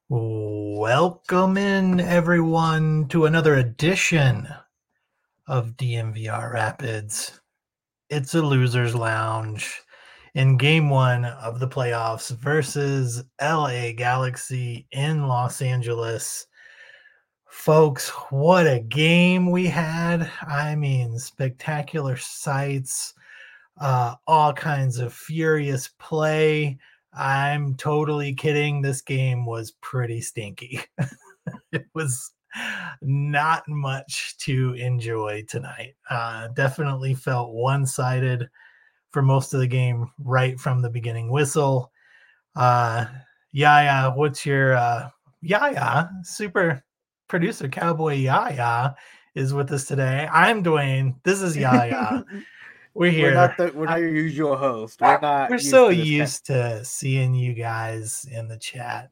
Welcome in, everyone, to another edition of DMVR Rapids. It's a loser's lounge in game one of the playoffs versus LA Galaxy in Los Angeles. Folks, what a game we had. I mean, spectacular sights, all kinds of furious play. I'm totally kidding. This game was pretty stinky. It was not much to enjoy tonight. Definitely felt one sided for most of the game right from the beginning whistle. Uh, Yaya, what's your Yaya? Super producer Cowboy Yaya is with us today. I'm Dwayne. This is Yaya. We're here. We're not your usual host. We're We're not used so to this kind. used to seeing you guys in the chat.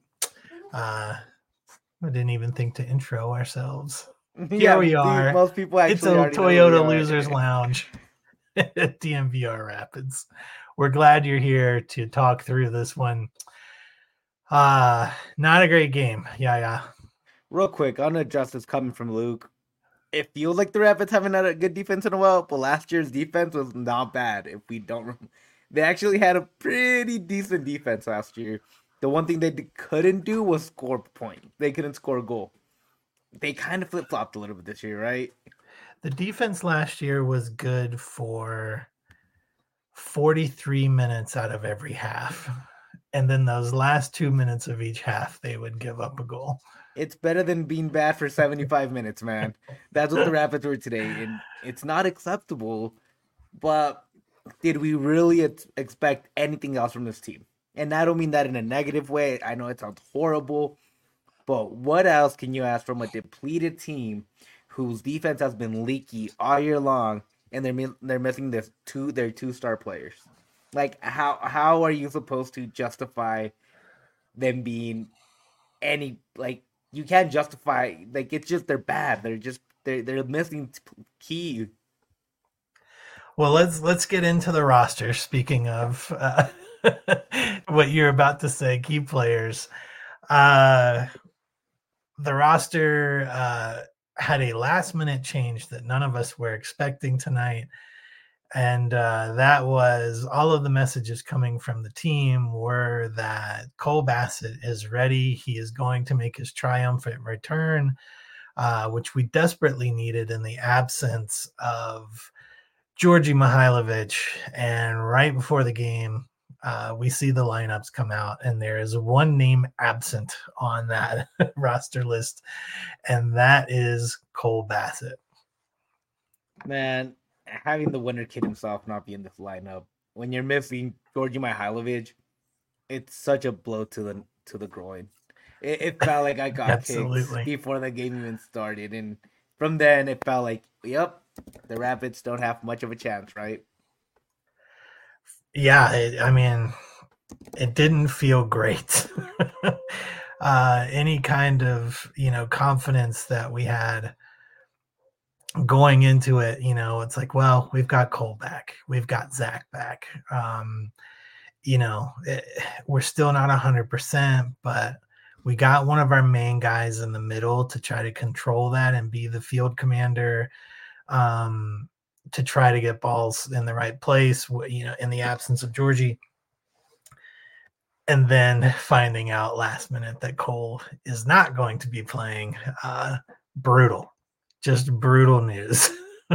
We didn't even think to intro ourselves. Here Yeah, we are. most people It's a actually already know who we Toyota are. Losers Lounge at DMVR Rapids. We're glad you're here to talk through this one. Not a great game. Yeah. Real quick, on a justice coming from Luke. It feels like the Rapids haven't had a good defense in a while, but last year's defense was not bad. If we don't, they actually had a pretty decent defense last year. The one thing they couldn't do was score a point. They couldn't score a goal. They kind of flip flopped a little bit this year, right? The defense last year was good for 43 minutes out of every half. And then those last 2 minutes of each half, they would give up a goal. It's better than being bad for 75 minutes, man. That's what the Rapids were today, and it's not acceptable. But did we really expect anything else from this team? And I don't mean that in a negative way. I know it sounds horrible, but what else can you ask from a depleted team whose defense has been leaky all year long, and they're missing their two-star players? Like how are you supposed to justify them being any like you can't justify like it's just they're bad. They're missing key. Well, let's get into the roster. Speaking of what you're about to say, key players. Uh, the roster had a last minute change that none of us were expecting tonight. And that was all of the messages coming from the team were that Cole Bassett is ready. He is going to make his triumphant return, which we desperately needed in the absence of Georgi Mihailovic. And right before the game, we see the lineups come out, and there is one name absent on that roster list, and that is Cole Bassett. Man, having the winner kid himself not be in this lineup when you're missing Georgi Mihailovic, it's such a blow to the groin. It felt like I got kicked Absolutely. before the game even started, and from then it felt like, yep, the Rapids don't have much of a chance, right? Yeah, I mean, it didn't feel great. Any kind of confidence that we had going into it, it's like, well, we've got Cole back, we've got Zach back. We're still not 100%, but we got one of our main guys in the middle to try to control that and be the field commander, to try to get balls in the right place, in the absence of Georgie. And then finding out last minute that Cole is not going to be playing, brutal, just brutal news.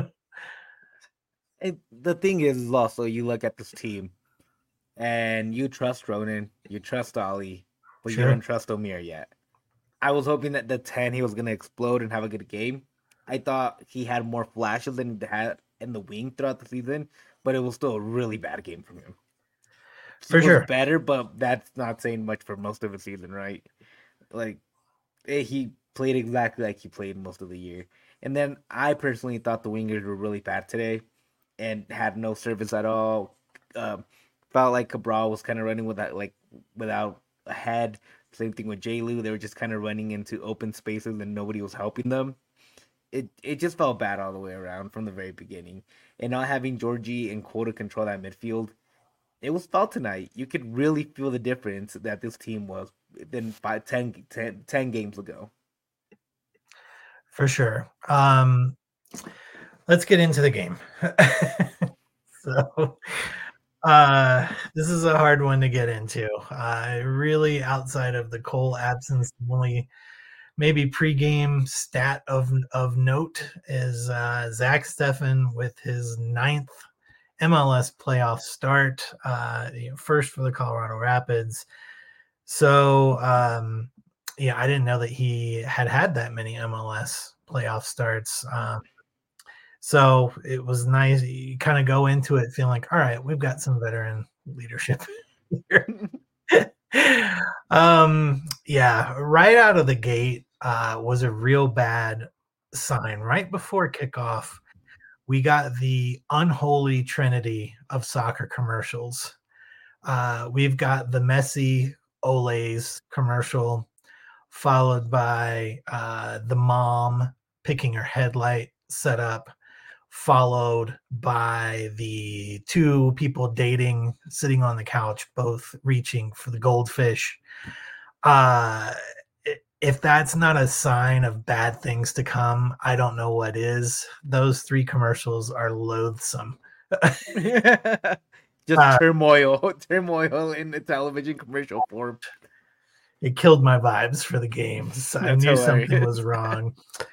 And the thing is also you look at this team and you trust Ronan, you trust Ali, but you don't Sure. trust Omir yet. I was hoping that the 10 he was gonna explode and have a good game. I thought he had more flashes than he had in the wing throughout the season, but it was still a really bad game from him. He For was sure. better, but that's not saying much for most of the season, right? Like he played exactly like he played most of the year. And then I personally thought the wingers were really bad today and had no service at all. Um, Felt like Cabral was kind of running without a head. Same thing with J. Lou. They were just kind of running into open spaces and nobody was helping them. It just felt bad all the way around from the very beginning. And not having Georgie and Quota control that midfield, it was felt tonight. You could really feel the difference that this team was than 10 games ago. For sure. Let's get into the game. So, this is a hard one to get into. Really, outside of the Cole absence, the only maybe pregame stat of note is Zach Steffen with his 9th MLS playoff start, first for the Colorado Rapids. So, yeah, I didn't know that he had that many MLS playoff starts. So it was nice. You kind of go into it feeling like, all right, we've got some veteran leadership here. Yeah, right out of the gate was a real bad sign. Right before kickoff, we got the unholy trinity of soccer commercials. We've got the Messi Olays commercial, followed by the mom picking her headlight setup, followed by the two people dating, sitting on the couch, both reaching for the goldfish. Uh, if that's not a sign of bad things to come, I don't know what is. Those three commercials are loathsome. Just turmoil in the television commercial form. It killed my vibes for the games. I That's knew something was hilarious. wrong.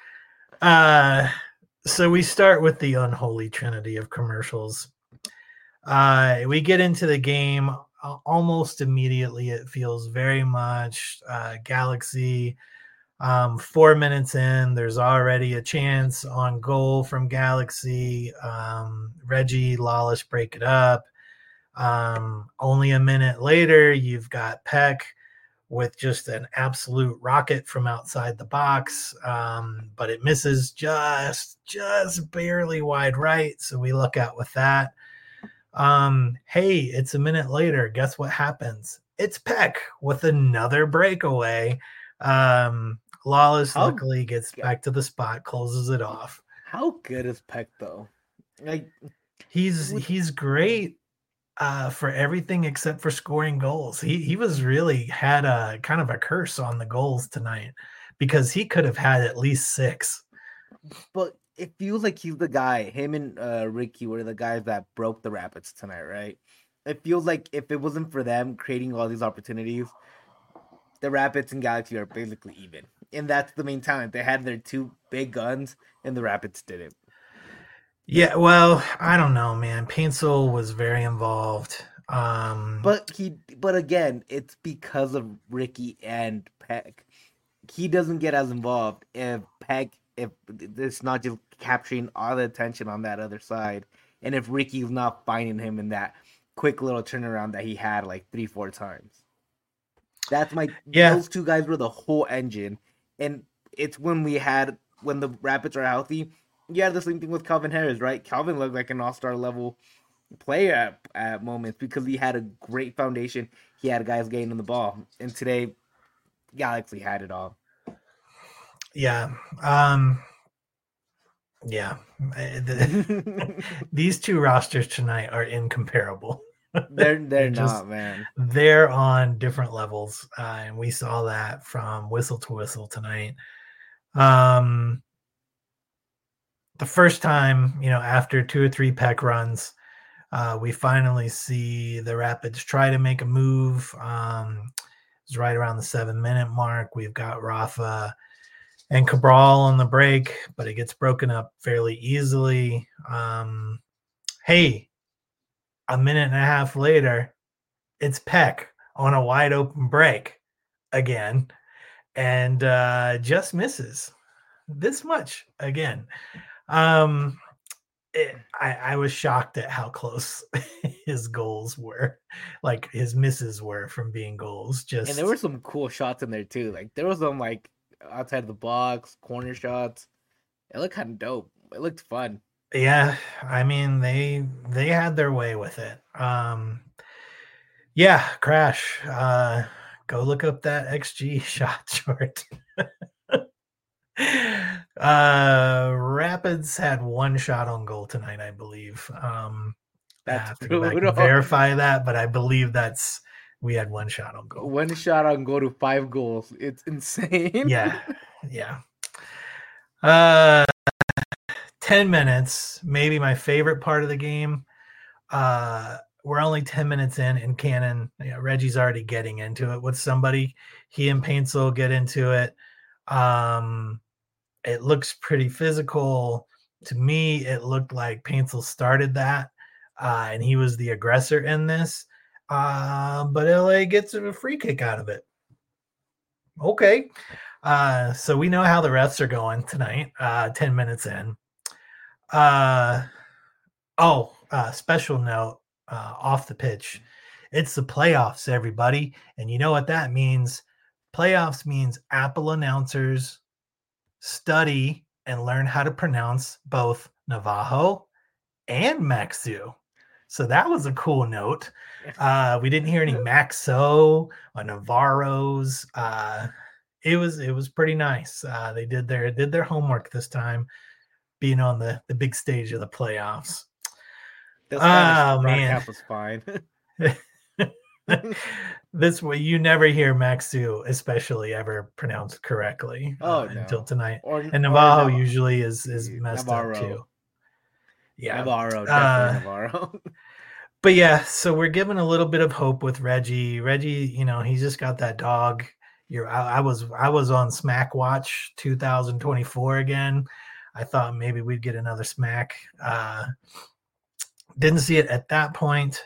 So we start with the unholy trinity of commercials. We get into the game almost immediately. It feels very much Galaxy. 4 minutes in, there's already a chance on goal from Galaxy. Reggie Lawless break it up. Only a minute later, you've got Peck with just an absolute rocket from outside the box, but it misses just barely wide right. So we look out with that. Hey, it's a minute later. Guess what happens? It's Peck with another breakaway. Lawless How luckily gets back to the spot, closes it off. how good is Peck though? Like He's great for everything except for scoring goals. He was really had a kind of a curse on the goals tonight because he could have had at least 6. but it feels like he's the guy. Him and Ricky were the guys that broke the Rapids tonight, right? It feels like if it wasn't for them creating all these opportunities, the Rapids and Galaxy are basically even. And that's the main talent. They had their two big guns, and the Rapids didn't. Yeah, well, I don't know, man. Paintsel was very involved. But again, it's because of Ricky and Peck. He doesn't get as involved if it's not just capturing all the attention on that other side, and if Ricky's not finding him in that quick little turnaround that he had like 3-4 times. That's my Yeah, those two guys were the whole engine, and it's when the Rapids are healthy. You had the same thing with Calvin Harris, right? Calvin looked like an all-star level player at moments because he had a great foundation. He had guys getting on the ball, and today Galaxy had it all. yeah, yeah. These two rosters tonight are incomparable. They're just not, man. they're on different levels, and we saw that from whistle to whistle tonight. Um, the first time, after 2 or 3 Peck runs, we finally see the Rapids try to make a move. It's right around the 7-minute mark. We've got Rafa and Cabral on the break, but it gets broken up fairly easily. Hey, a minute and a half later, it's Peck on a wide open break again, and just misses this much again. I was shocked at how close his goals were, like his misses were from being goals. And there were Just some cool shots in there too. Like there was some like outside the box corner shots. It looked kind of dope. It looked fun. yeah, I mean they had their way with it. Yeah, Crash. Go look up that XG shot short. Rapids had 1 shot on goal tonight, I believe. I That's have to go back and brutal. verify that, but I believe we had one shot on goal. One shot on goal to 5 goals. It's insane. Yeah, yeah. Uh, 10 minutes, maybe my favorite part of the game. We're only 10 minutes in, and Cannon, Reggie's already getting into it with somebody. He and Paintsel get into it. It looks pretty physical. To me, it looked like Paintsel started that, and he was the aggressor in this. But LA gets a free kick out of it. Okay. So we know how the refs are going tonight, 10 minutes in. Special note, off the pitch. It's the playoffs, everybody. And you know what that means? Playoffs means Apple announcers study and learn how to pronounce both Navajo and Maxu. So that was a cool note. We didn't hear any Maxo or Navarros. It was pretty nice. They did their homework this time, being on the big stage of the playoffs. The Spanish broadcast was fine. This way, you never hear Maxu, especially, ever pronounced correctly until tonight. And Navajo usually is messed Navarro. Up too. Yeah, Navarro, definitely Navarro. But yeah, so we're given a little bit of hope with Reggie. Reggie, he's just got that dog. I was on Smack Watch 2024 again. I thought maybe we'd get another smack. Didn't see it at that point.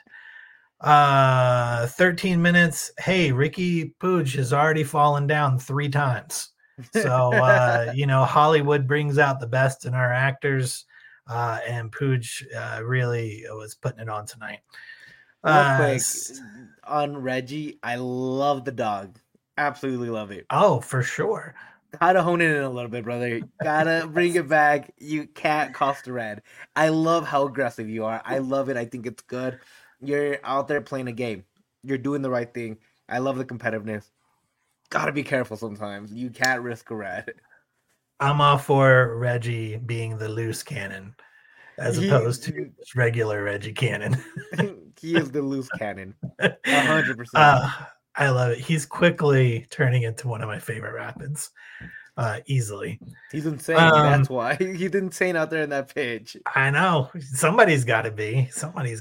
13 minutes. Hey, Ricky Puig has already fallen down 3 times. So, Hollywood brings out the best in our actors, and Puig really was putting it on tonight. Real quick, on Reggie, I love the dog. Absolutely love it. Oh, for sure. Gotta hone in a little bit, brother. Gotta bring it back. You can't cost the red. I love how aggressive you are. I love it. I think it's good. You're out there playing a game. You're doing the right thing. I love the competitiveness. Gotta be careful sometimes. You can't risk a red. I'm all for Reggie being the loose cannon as opposed to regular Reggie Cannon. He is the loose cannon. 100%. I love it. He's quickly turning into one of my favorite Rapids. Easily. He's insane. That's why. He's insane out there in that pitch. I know. Somebody's got to be.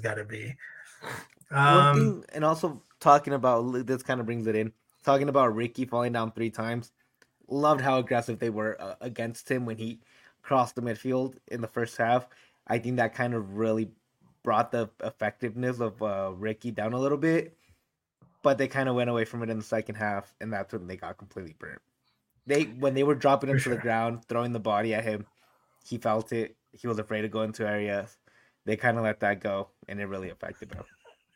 One thing, and also talking about, this kind of brings it in, talking about Ricky falling down 3 times. Loved how aggressive they were against him when he crossed the midfield in the first half. I think that kind of really brought the effectiveness of Ricky down a little bit. But they kind of went away from it in the second half, and that's when they got completely burnt. When they were dropping him to the ground, throwing the body at him, he felt it. He was afraid to go into areas. They kind of let that go, and it really affected him.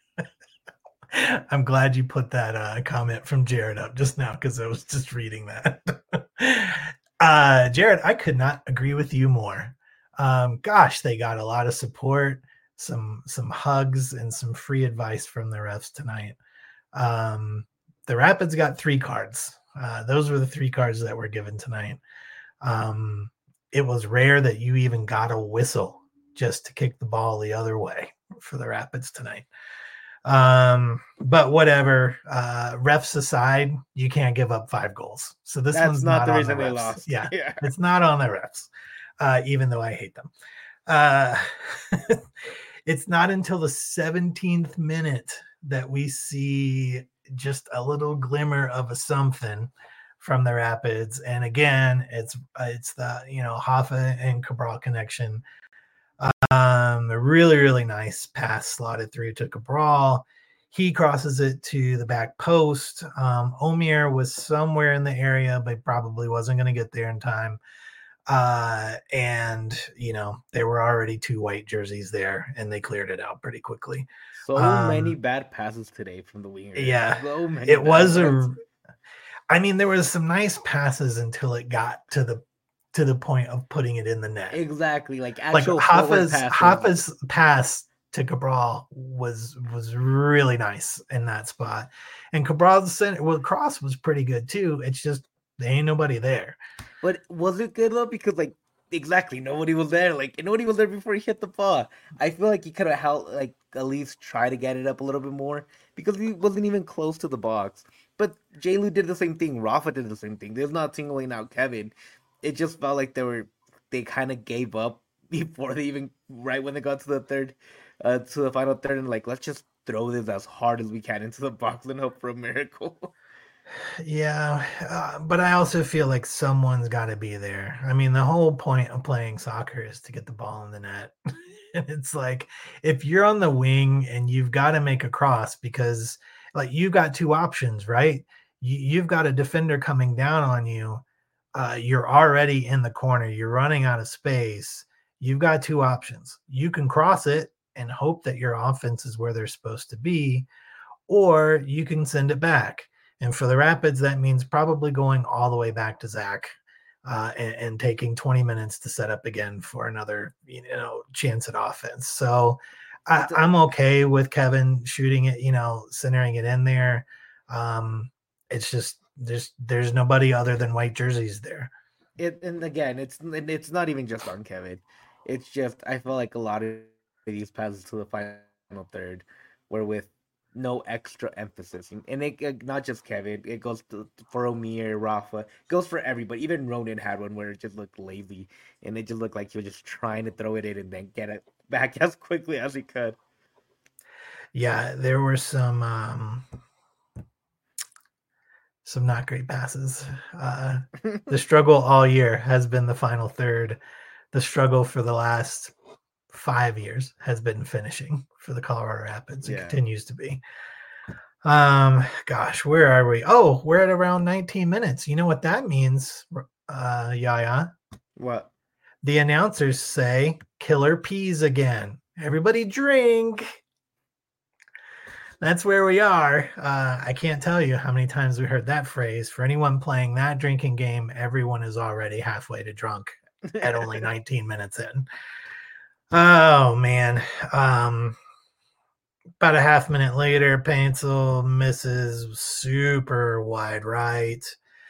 I'm glad you put that comment from Jared up just now, because I was just reading that. Jared, I could not agree with you more. Gosh, they got a lot of support, some hugs, and some free advice from the refs tonight. The Rapids got 3 cards. Those were the 3 cards that were given tonight. It was rare that you even got a whistle just to kick the ball the other way for the Rapids tonight. But whatever, refs aside, you can't give up 5 goals. So that's one's not the reason they lost. Yeah, it's not on the refs, even though I hate them. It's not until the 17th minute that we see just a little glimmer of a something from the Rapids. And again, it's the, Hoffa and Cabral connection. A really, really nice pass slotted through to Cabral. He crosses it to the back post. Omir was somewhere in the area, but probably wasn't going to get there in time. And there were already 2 white jerseys there, and they cleared it out pretty quickly. So many bad passes today from the wingers. Yeah, so many. It was there was some nice passes until it got to the point of putting it in the net. Exactly, like Hoffa's pass to Cabral was really nice in that spot, and Cabral's cross was pretty good too. It's just there ain't nobody there. But was it good though? Because exactly. Nobody was there. Like nobody was there before he hit the ball. I feel like he could have held like at least try to get it up a little bit more because he wasn't even close to the box. But J. Did the same thing. Rafa did the same thing. There's not singling out Kevin. It just felt like they kind of gave up before they even right when they got to the third, to the final third, and like let's just throw this as hard as we can into the box and hope for a miracle. Yeah, but I also feel like someone's got to be there. I mean, the whole point of playing soccer is to get the ball in the net. And it's like if you're on the wing and you've got to make a cross because like you've got two options, right? You've got a defender coming down on you. You're already in the corner. You're running out of space. You've got two options. You can cross it and hope that your offense is where they're supposed to be, or you can send it back. And for the Rapids, that means probably going all the way back to Zach and taking 20 minutes to set up again for another, chance at offense. So I'm okay with Kevin shooting it, centering it in there. It's just there's nobody other than white jerseys there. And again, it's not even just on Kevin. It's just I feel like a lot of these passes to the final third were with no extra emphasis, and it not just Kevin. It goes for Omir, Rafa, it goes for everybody. Even Ronan had one where it just looked lazy, and it just looked like he was just trying to throw it in and then get it back as quickly as he could. Yeah, there were some not great passes. The struggle all year has been the final third. The struggle for the last 5 years has been finishing for the Colorado Rapids. It continues to be. Gosh, where are we? Oh, we're at around 19 minutes. You know what that means, Yaya? What? The announcers say killer peas again. Everybody drink. That's where we are. I can't tell you how many times we heard that phrase. For anyone playing that drinking game, everyone is already halfway to drunk at only 19 minutes in. Oh, man. About a half minute later, Paintsel misses super wide right.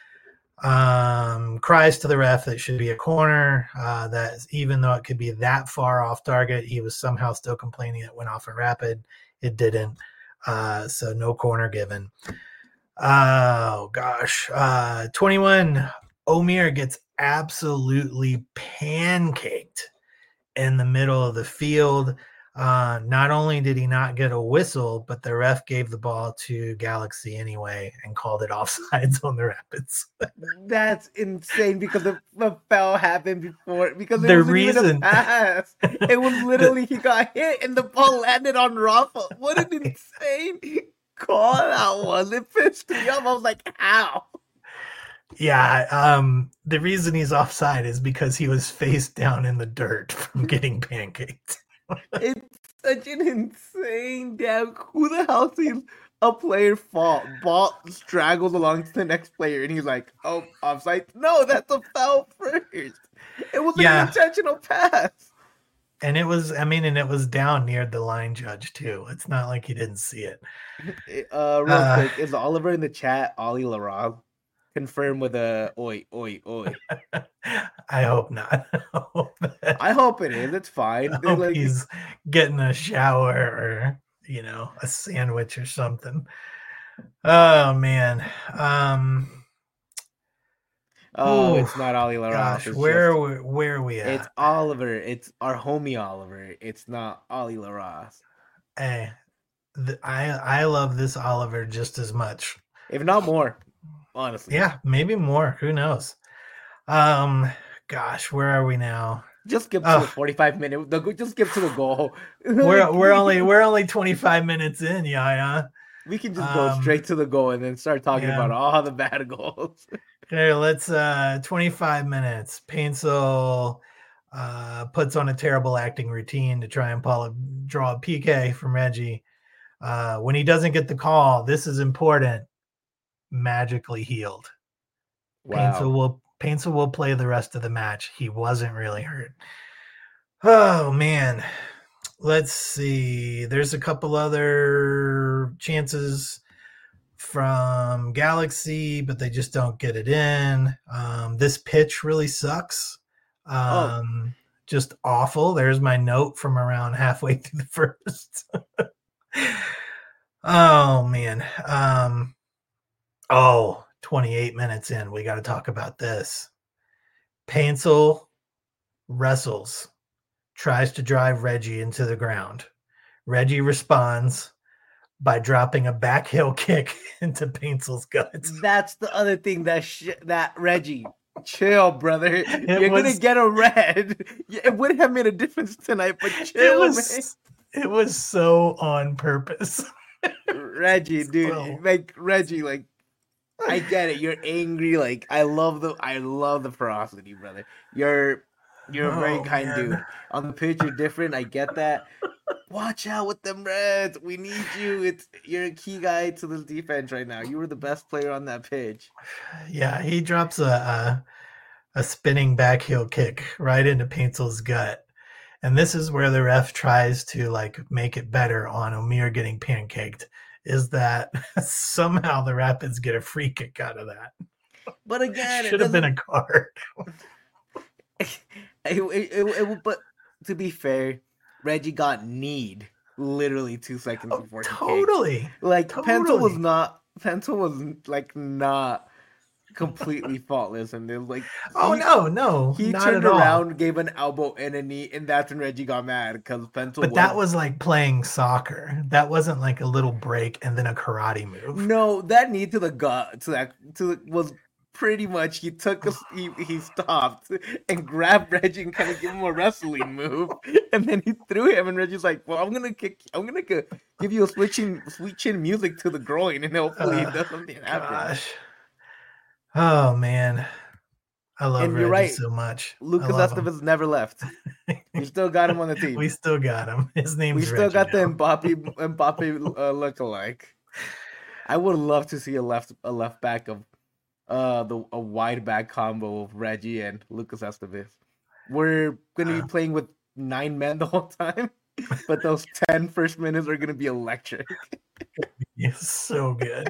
Cries to the ref that it should be a corner. That even though it could be that far off target, he was somehow still complaining it went off a Rapid. It didn't. So no corner given. Oh gosh. 21. Omir gets absolutely pancaked in the middle of the field. Not only did he not get a whistle, but the ref gave the ball to Galaxy anyway and called it offsides on the Rapids. That's insane because the foul happened before. Because it wasn't even a pass. It was literally he got hit and the ball landed on Rafa. What an insane call that was. It pissed me off. I was like, how? Yeah, the reason he's offside is because he was face down in the dirt from getting pancaked. It's such an insane damn. Who the hell sees a player fall, ball straggles along to the next player, and he's like, "Oh, offside." No, that's a foul first. It was an intentional pass. And it was, and it was down near the line judge too. It's not like he didn't see it. Real quick, is Oliver in the chat? Ollie Laraz? Confirm with a oi, oi, oi. I hope not. I hope it is. It's fine. I hope he's getting a shower or, a sandwich or something. Oh, man. It's not Ollie Laraz. Gosh, where are we at? It's Oliver. It's our homie Oliver. It's not Ollie Laraz. Hey, I love this Oliver just as much. If not more. Honestly. Yeah, maybe more. Who knows? Gosh, where are we now? Just skip to the 45 minute. Just skip to the goal. we're only 25 minutes in, yeah. We can just go straight to the goal and then start talking about all the bad goals. Okay, let's 25 minutes. Paintsel puts on a terrible acting routine to try and draw a PK from Reggie. When he doesn't get the call, this is important. Magically healed. Wow. Paintsel will play the rest of the match. He wasn't really hurt. Oh man. Let's see. There's a couple other chances from Galaxy, but they just don't get it in. This pitch really sucks. Oh, Just awful. There's my note from around halfway through the first. Oh man. 28 minutes in. We got to talk about this. Paintsel wrestles, tries to drive Reggie into the ground. Reggie responds by dropping a back heel kick into Paintsel's guts. that's the other thing that Reggie, chill, brother. You're gonna was get a red. It wouldn't have made a difference tonight, but chill, man. it was so on purpose. Reggie, dude, So- like Reggie, like I get it. You're angry. Like I love the ferocity, brother. You're a very kind man. dude. On the pitch, you're different. I get that. Watch out with them Reds. We need you. You're a key guy to this defense right now. You were the best player on that pitch. Yeah, he drops a spinning back heel kick right into Paintsel's gut. And this is where the ref tries to like make it better on Omir getting pancaked. Is that somehow the Rapids get a free kick out of that? But again, Should have been a card. But to be fair, Reggie got kneed literally 2 seconds before he kicked. Totally. Like Pencil was Totally. like not completely faultless, and they're like, no, he not turned at all. around, gave an elbow and a knee, and that's when Reggie got mad because Pencil. But that was like playing soccer. That wasn't like a little break and then a karate move. no, that knee to the gut was pretty much he stopped and grabbed Reggie and kind of give him a wrestling move, and then he threw him, and Reggie's like, "Well, I'm gonna give you a sweet chin music to the groin, and hopefully it does something happen." Gosh. Oh man. I love And you're Reggie right. so much. Lucas I love him. Estevez never left. We still got him on the team. We still got him. His name's We still Reggie got the now. Mbappe lookalike. I would love to see a left back of a wide back combo of Reggie and Lucas Estevez. We're gonna be playing with 9 men the whole time, but those 10 first minutes are gonna be electric. It's so good.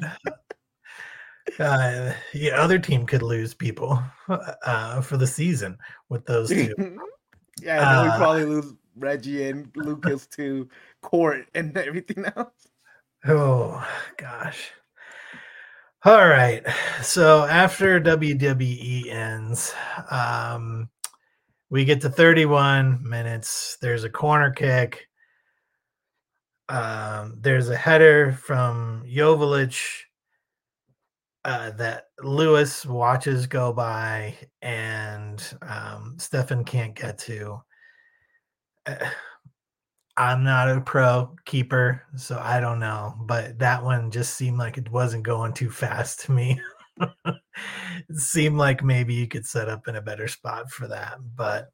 Other team could lose people for the season with those two. Yeah, I know we probably lose Reggie and Lucas to court and everything else. Oh gosh. All right. So after WWE ends, we get to 31 minutes. There's a corner kick. There's a header from Joveljic that Lewis watches go by and Stefan can't get to. I'm not a pro keeper, so I don't know, but that one just seemed like it wasn't going too fast to me. It seemed like maybe you could set up in a better spot for that, but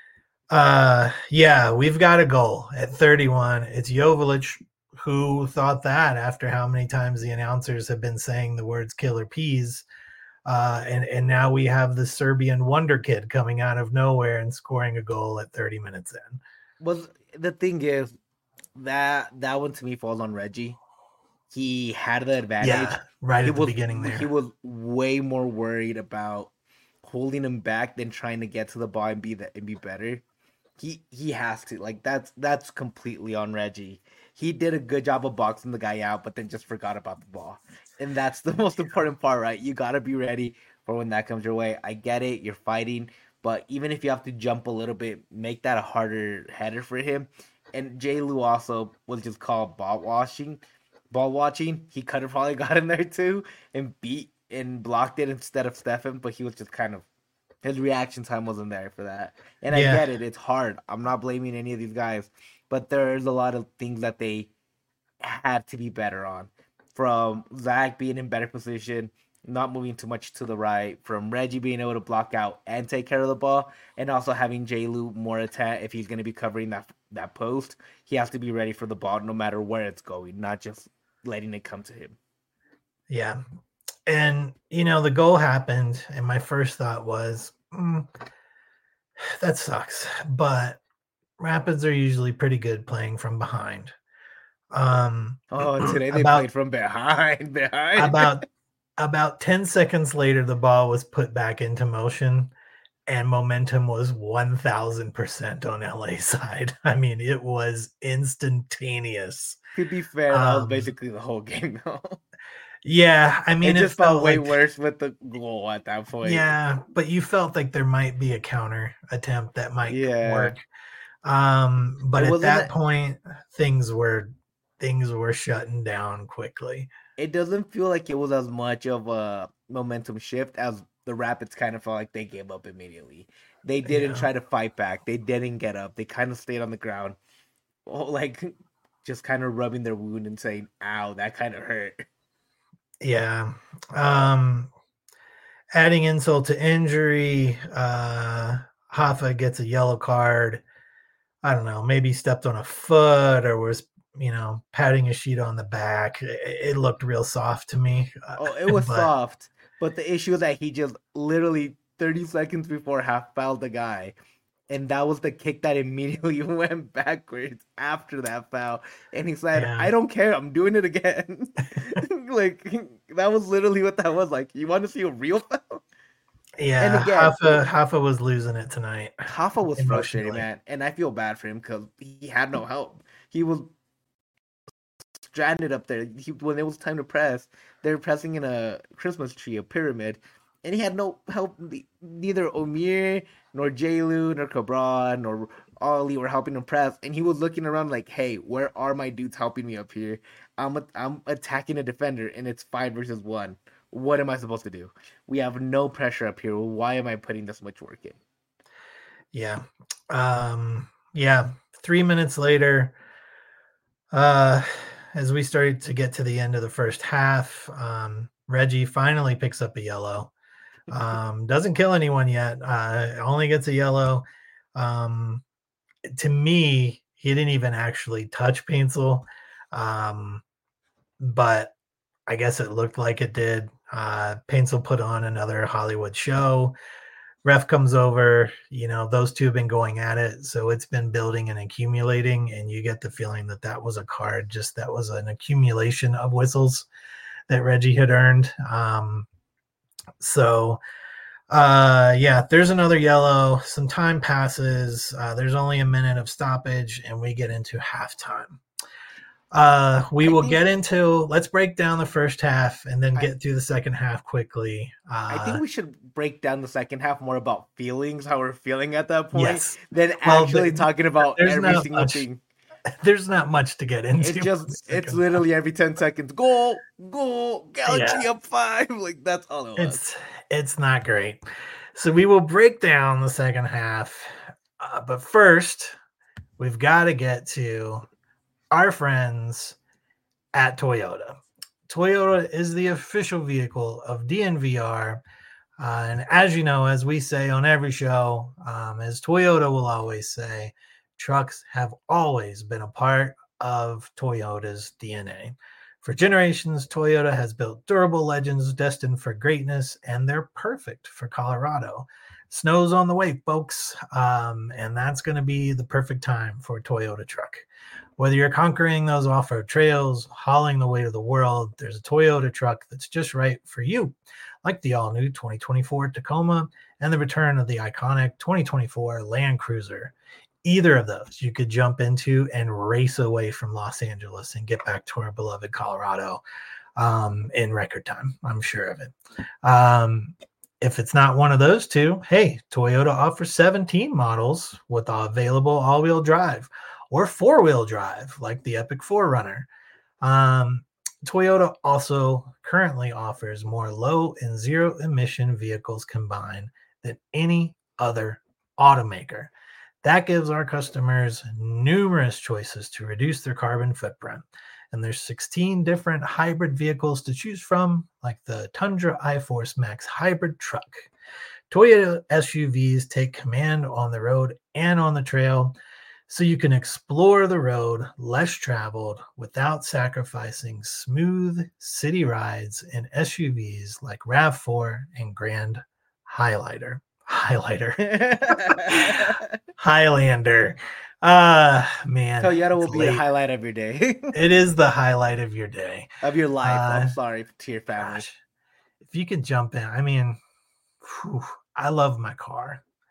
yeah, we've got a goal at 31. It's Joveljic. Who thought that after how many times the announcers have been saying the words killer peas? And now we have the Serbian wonder kid coming out of nowhere and scoring a goal at 30 minutes in. The thing is that one to me falls on Reggie. He had the advantage. Yeah, right at the beginning there. He was way more worried about holding him back than trying to get to the ball and be better. He has to, like, that's completely on Reggie. He did a good job of boxing the guy out, but then just forgot about the ball. And that's the most important part, right? You got to be ready for when that comes your way. I get it. You're fighting. But even if you have to jump a little bit, make that a harder header for him. And J. Lou also was just called ball watching. He could have probably got in there too and blocked it instead of Stefan, but he was just kind of, his reaction time wasn't there for that. And I get it. It's hard. I'm not blaming any of these guys, but there's a lot of things that they had to be better on. From Zach being in better position, not moving too much to the right, from Reggie being able to block out and take care of the ball, and also having J. Lou more attack. If he's going to be covering that post, he has to be ready for the ball no matter where it's going, not just letting it come to him. Yeah. And, the goal happened, and my first thought was, that sucks. But Rapids are usually pretty good playing from behind. Today they played from behind. About 10 seconds later, the ball was put back into motion, and momentum was 1000% on LA side. I mean, it was instantaneous. To be fair, that was Um, basically the whole game, though. yeah, I It mean, it just felt felt way like, worse with the goal at that point. yeah, but you felt like there might be a counter attempt that might Yeah, work. it But at wasn't. that point, things were things were shutting down quickly. It doesn't feel like it was as much of a momentum shift as the Rapids kind of felt like they gave up immediately. They didn't Yeah. try to fight back. They didn't get up. They kind of stayed on the ground, like just kind of rubbing their wound and saying, "Ow, that kind of hurt." Yeah. Um, Adding insult to injury, Hoffa gets a yellow card. I don't know, maybe stepped on a foot or was, patting a sheet on the back. It looked real soft to me. Oh, it was But soft, but the issue is that he just literally 30 seconds before half fouled the guy. And that was the kick that immediately went backwards after that foul. And he said, yeah, I don't care, I'm doing it again. Like, that was literally what that was like. You want to see a real foul? And yeah, again, Hoffa was losing it tonight Hoffa was frustrated, emotionally. man. And I feel bad for him because he had no help. He was stranded up there. When it was time to press, they were pressing in a Christmas tree, a pyramid, and he had no help. Neither Omir nor Jailu nor Cabran nor Ollie were helping him press, and he was looking around like, "Hey, where are my dudes helping me up here? I'm attacking a defender, and it's 5 versus 1. What am I supposed to do? We have no pressure up here. Why am I putting this much work in?" Yeah. Yeah. 3 minutes later, uh, as we started to get to the end of the first half, Reggie finally picks up a yellow. Doesn't kill anyone yet. Only gets a yellow. Um, to me, he didn't even actually touch Paintsel, but I guess it looked like it did. Paintsel put on another Hollywood show. Ref comes over. Those two have been going at it, so it's been building and accumulating, and you get the feeling that that was a card. Just that was an accumulation of whistles that Reggie had earned. So yeah, there's another yellow. Some time passes. There's only a minute of stoppage, and we get into halftime. We I will think get into. Let's break down the first half and then I, get through the second half quickly. I think we should break down the second half more about feelings, how we're feeling at that point, Yes. than Well, actually talking about there's every not single much. thing. There's not much to get into. It's literally every 10 seconds, goal, Galaxy Yeah, up 5. Like, that's all it was. it's not great. So we will break down the second half, but first we've got to get to our friends at Toyota. Toyota is the official vehicle of DNVR. And as you know, as we say on every show, as Toyota will always say, trucks have always been a part of Toyota's DNA. For generations, Toyota has built durable legends destined for greatness, and they're perfect for Colorado. Snow's on the way, folks, and that's going to be the perfect time for a Toyota truck. Whether you're conquering those off-road trails, hauling the weight of the world, there's a Toyota truck that's just right for you, like the all-new 2024 Tacoma and the return of the iconic 2024 Land Cruiser. Either of those you could jump into and race away from Los Angeles and get back to our beloved Colorado in record time. I'm sure of it. If it's not one of those two, hey, Toyota offers 17 models with available all-wheel drive or four-wheel drive, like the Epic 4Runner. Toyota also currently offers more low and zero emission vehicles combined than any other automaker. That gives our customers numerous choices to reduce their carbon footprint. And there's 16 different hybrid vehicles to choose from, like the Tundra iForce Max hybrid truck. Toyota SUVs take command on the road and on the trail, so you can explore the road less traveled without sacrificing smooth city rides in SUVs like RAV4 and Grand Highlander. Highlander. Man, Toyota will it's be the late. highlight of your day, It is the highlight of your day. of your life. I'm sorry to your family. Gosh, if you could jump in, I mean, I love my car.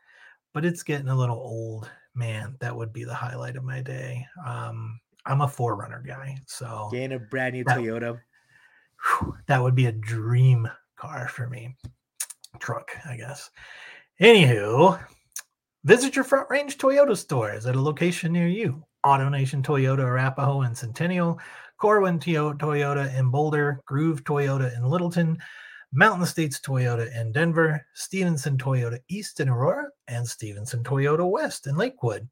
but it's getting a little old. Man, that would be the highlight of my day. I'm a 4Runner guy, so Getting a brand new that, Toyota. that would be a dream car for me. Truck, I guess. Anywho, visit your Front Range Toyota stores at a location near you. AutoNation Toyota Arapahoe and Centennial, Corwin Toyota in Boulder, Groove Toyota in Littleton, Mountain States Toyota in Denver, Stevenson Toyota East in Aurora, and Stevenson Toyota West in Lakewood.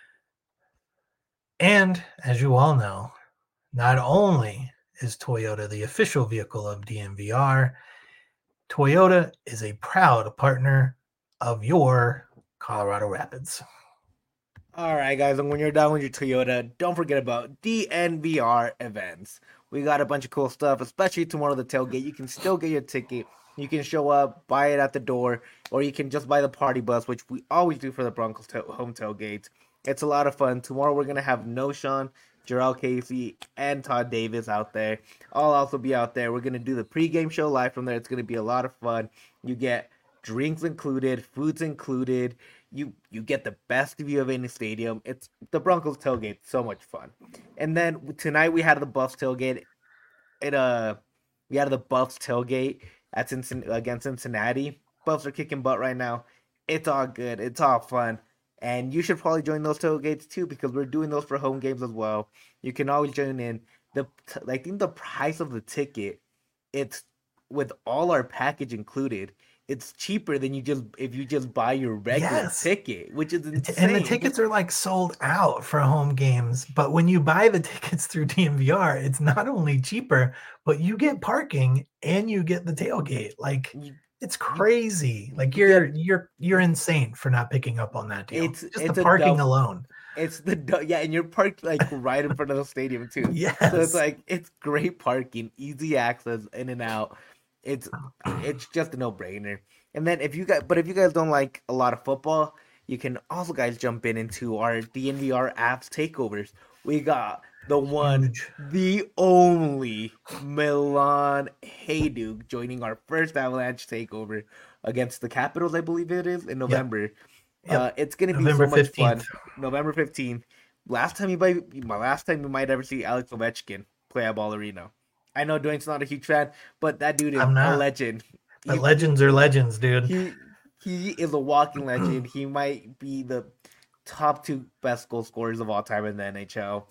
And as you all know, not only is Toyota the official vehicle of DNVR, Toyota is a proud partner of your Colorado Rapids. All right, guys, and when you're done with your Toyota, don't forget about DNVR events. We got a bunch of cool stuff, especially tomorrow, the tailgate. You can still get your ticket. You can show up, buy it at the door, or you can just buy the party bus, which we always do for the Broncos home tailgates. It's a lot of fun. Tomorrow, we're going to have Noshawn, Jarrell Casey, and Todd Davis out there. I'll also be out there. We're going to do the pregame show live from there. It's going to be a lot of fun. You get drinks included, foods included. You get the best view of any stadium. It's the Broncos tailgate, so much fun. And then tonight we had the Buffs tailgate. We had the Buffs tailgate against Cincinnati. Buffs are kicking butt right now. It's all good. It's all fun. And you should probably join those tailgates too, because we're doing those for home games as well. You can always join in. I think the price of the ticket, it's with all our package included, it's cheaper than if you just buy your regular ticket, which is insane. And the tickets are like sold out for home games. But when you buy the tickets through DNVR, it's not only cheaper, but you get parking and you get the tailgate. Like it's crazy. Like you're insane for not picking up on that deal. It's just the parking alone. And you're parked like right in front of the stadium too. Yes. So it's like it's great parking, easy access in and out. It's just a no-brainer. And then if you guys don't like a lot of football, you can also guys jump into our DNVR apps takeovers. We got the one, the only Milan Hajduk joining our first Avalanche takeover against the Capitals, I believe it is, in November. Yep. It's gonna be so much fun. November 15th. Last time you might ever see Alex Ovechkin play at Ball Arena. I know Dwayne's not a huge fan, but that dude is a legend. But legends are legends, dude. He is a walking legend. He might be the top 2 best goal scorers of all time in the NHL.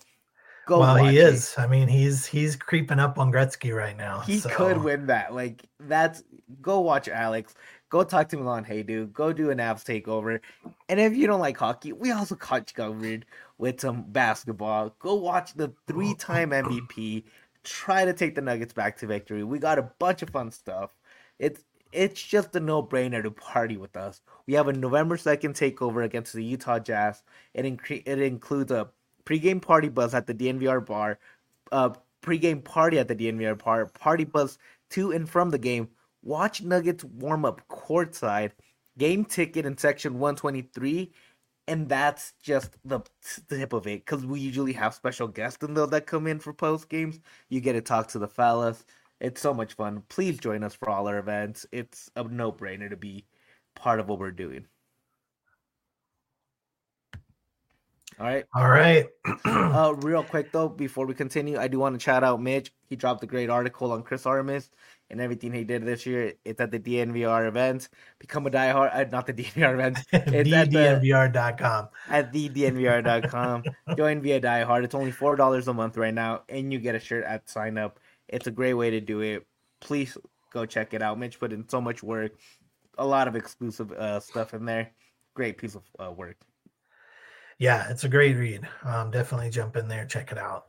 He is. I mean, he's creeping up on Gretzky right now. He could win that. Like go watch Alex. Go talk to Milan Hajduk. Go do an Avs takeover. And if you don't like hockey, we also caught you covered with some basketball. Go watch the 3-time MVP. Try to take the Nuggets back to victory. We got a bunch of fun stuff. It's just a no-brainer to party with us. We have a November 2nd takeover against the Utah Jazz. It includes a pregame party bus at the DNVR bar, pregame party at the DNVR bar, party bus to and from the game. Watch Nuggets warm up courtside, game ticket in section 123. And that's just the tip of it, because we usually have special guests in those that come in for post games. You get to talk to the fellas. It's so much fun. Please join us for all our events. It's a no-brainer to be part of what we're doing. All right. Real quick, though, before we continue, I do want to shout out Mitch. He dropped a great article on Chris Armas and everything he did this year. It's at the DNVR event. Become a diehard. Not the DNVR event. It's at DNVR.com. At thednvr.com. Join via diehard. It's only $4 a month right now, and you get a shirt at sign up. It's a great way to do it. Please go check it out. Mitch put in so much work. A lot of exclusive stuff in there. Great piece of work. Yeah, it's a great read. Definitely jump in there, check it out.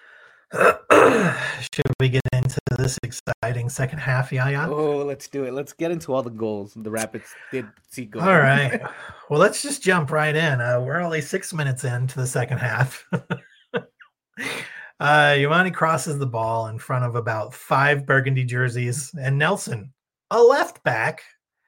Should we get into this exciting second half, Yaya? Oh, let's do it. Let's get into all the goals the Rapids did see go. All right. Well, let's just jump right in. We're only 6 minutes into the second half. Yamani crosses the ball in front of about 5 burgundy jerseys, and Nelson, a left back,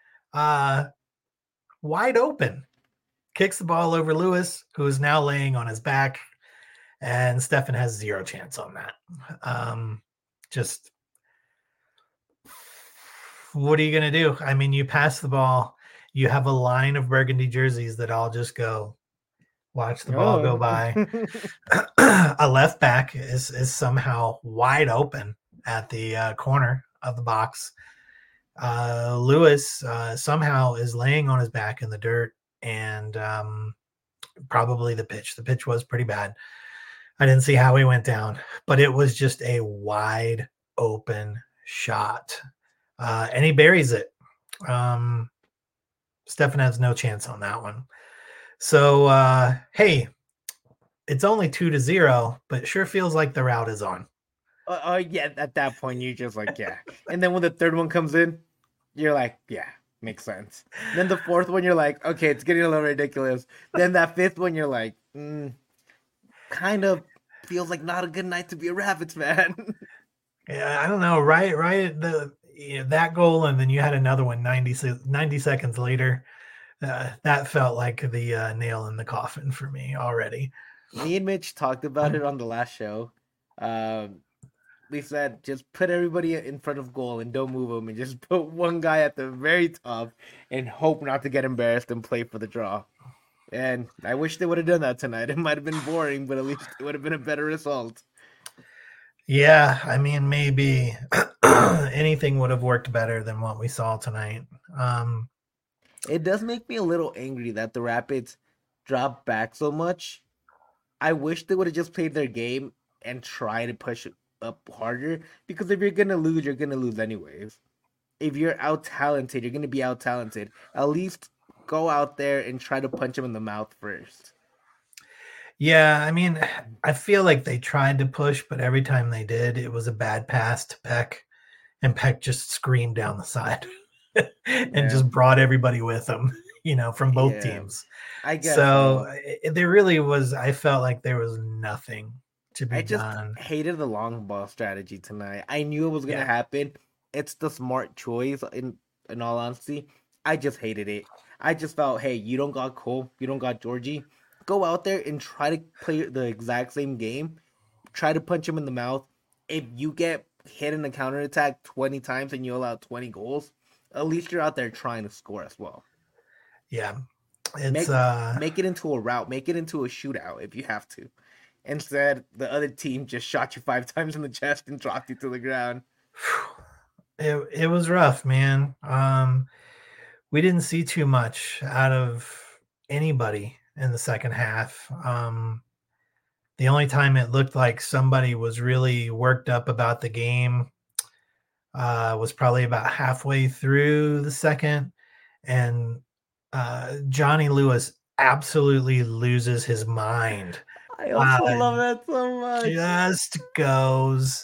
wide open, kicks the ball over Lewis, who is now laying on his back, and Stefan has 0 chance on that. Just what are you going to do? I mean, you pass the ball. you have a line of burgundy jerseys that all just go watch the ball go Oh. by. A left back is somehow wide open at the corner of the box. Lewis somehow is laying on his back in the dirt, and probably the pitch. The pitch was pretty bad. I didn't see how he went down, but it was just a wide open shot. And he buries it. Stefan has no chance on that one. So, hey, it's only 2-0, but it sure feels like the route is on. Yeah, at that point, you're just like, yeah. And then when the third one comes in, you're like, yeah, makes sense. Then the fourth one, you're like, okay, it's getting a little ridiculous. Then that fifth one, you're like, kind of feels like not a good night to be a Rapids fan. Yeah, I don't know. Right that goal, and then you had another one 90 seconds later. That felt like the nail in the coffin for me already. Me and Mitch talked about it on the last show. We said just put everybody in front of goal and don't move them, and just put one guy at the very top and hope not to get embarrassed and play for the draw. And I wish they would have done that tonight. It might have been boring, but at least it would have been a better result. Yeah, I mean, maybe anything would have worked better than what we saw tonight. It does make me a little angry that the Rapids dropped back so much. I wish they would have just played their game and try to push it up harder, because if you're gonna lose, you're gonna lose anyways. If you're out talented, you're gonna be out talented. At least go out there and try to punch him in the mouth first. Yeah, I mean, I feel like they tried to push, but every time they did, it was a bad pass to Peck, and Peck just screamed down the side and just brought everybody with him, from both teams. I guess so. There really was. I felt like there was nothing to be I done. just hated the long ball strategy tonight. I knew it was gonna happen. It's the smart choice. In all honesty, I just hated it. I just felt, hey, you don't got Cole, you don't got Georgie. Go out there and try to play the exact same game. Try to punch him in the mouth. If you get hit in the counterattack 20 times and you allow 20 goals, at least you're out there trying to score as well. Yeah. Make it into a rout. Make it into a shootout if you have to. Instead, the other team just shot you 5 times in the chest and dropped you to the ground. It was rough, man. We didn't see too much out of anybody in the second half. The only time it looked like somebody was really worked up about the game was probably about halfway through the second, and Johnny Lewis absolutely loses his mind. I also love that so much. Just goes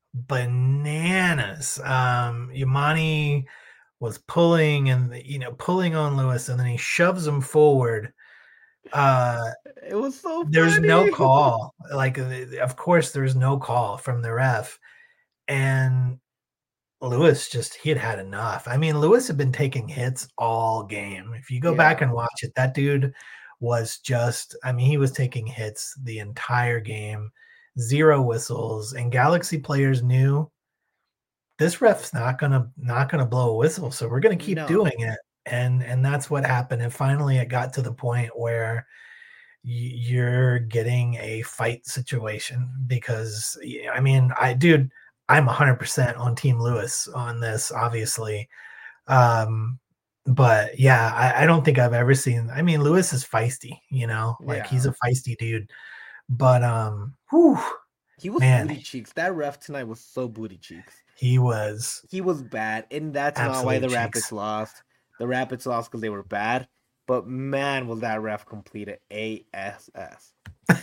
bananas. Yamani was pulling pulling on Lewis, and then he shoves him forward. It was so there's funny. No call. Like, of course, there's no call from the ref, and Lewis he had enough. I mean, Lewis had been taking hits all game. If you go back and watch it, that dude was he was taking hits the entire game, 0 whistles, and Galaxy players knew this ref's not gonna blow a whistle, so we're gonna keep doing it. And that's what happened. And finally it got to the point where you're getting a fight situation, because I'm 100% on Team Lewis on this, obviously. But yeah, I don't think I've ever seen. I mean, Lewis is feisty, he's a feisty dude. But he was booty cheeks. That ref tonight was so booty cheeks. He was bad, and that's not why the Rapids lost. The Rapids lost because they were bad. But man, was that ref completed ASS.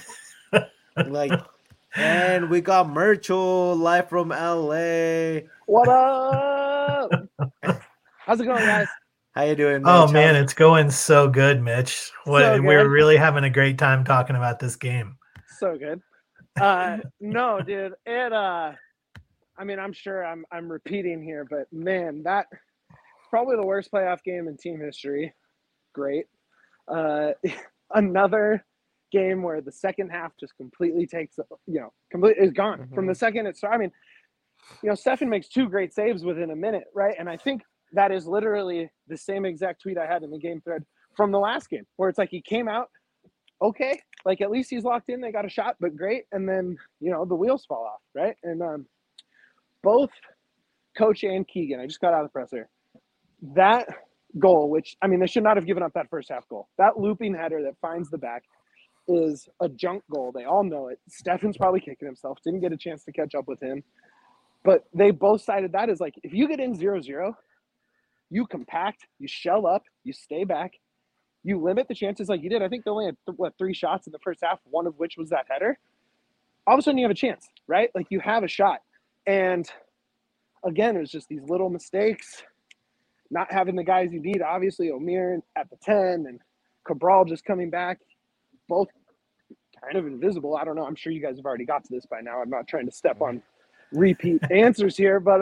And we got Merchel live from LA. What up? How's it going, guys? How you doing, Mitch? Oh man, it's going so good, Mitch. We're really having a great time talking about this game. So good. No, dude. I'm sure I'm repeating here, but man, that's probably the worst playoff game in team history. Great. Another game where the second half just completely is gone. From the second it started. Stefan makes 2 great saves within a minute, right? And I think that is literally the same exact tweet I had in the game thread from the last game, where it's like he came out, okay, like at least he's locked in, they got a shot, but great, and then, you know, the wheels fall off, right? And both Coach and Keegan, I just got out of the presser, that goal, which, I mean, they should not have given up that first half goal. That looping header that finds the back is a junk goal. They all know it. Stefan's probably kicking himself, didn't get a chance to catch up with him. But they both cited that as like, if you get in 0-0, you compact, you shell up, you stay back, you limit the chances like you did. I think they only had, 3 shots in the first half, one of which was that header. All of a sudden you have a chance, right? Like you have a shot. And again, it was just these little mistakes, not having the guys you need. Obviously, Omir at the 10 and Cabral just coming back, both kind of invisible. I don't know. I'm sure you guys have already got to this by now. I'm not trying to step on repeat answers here, but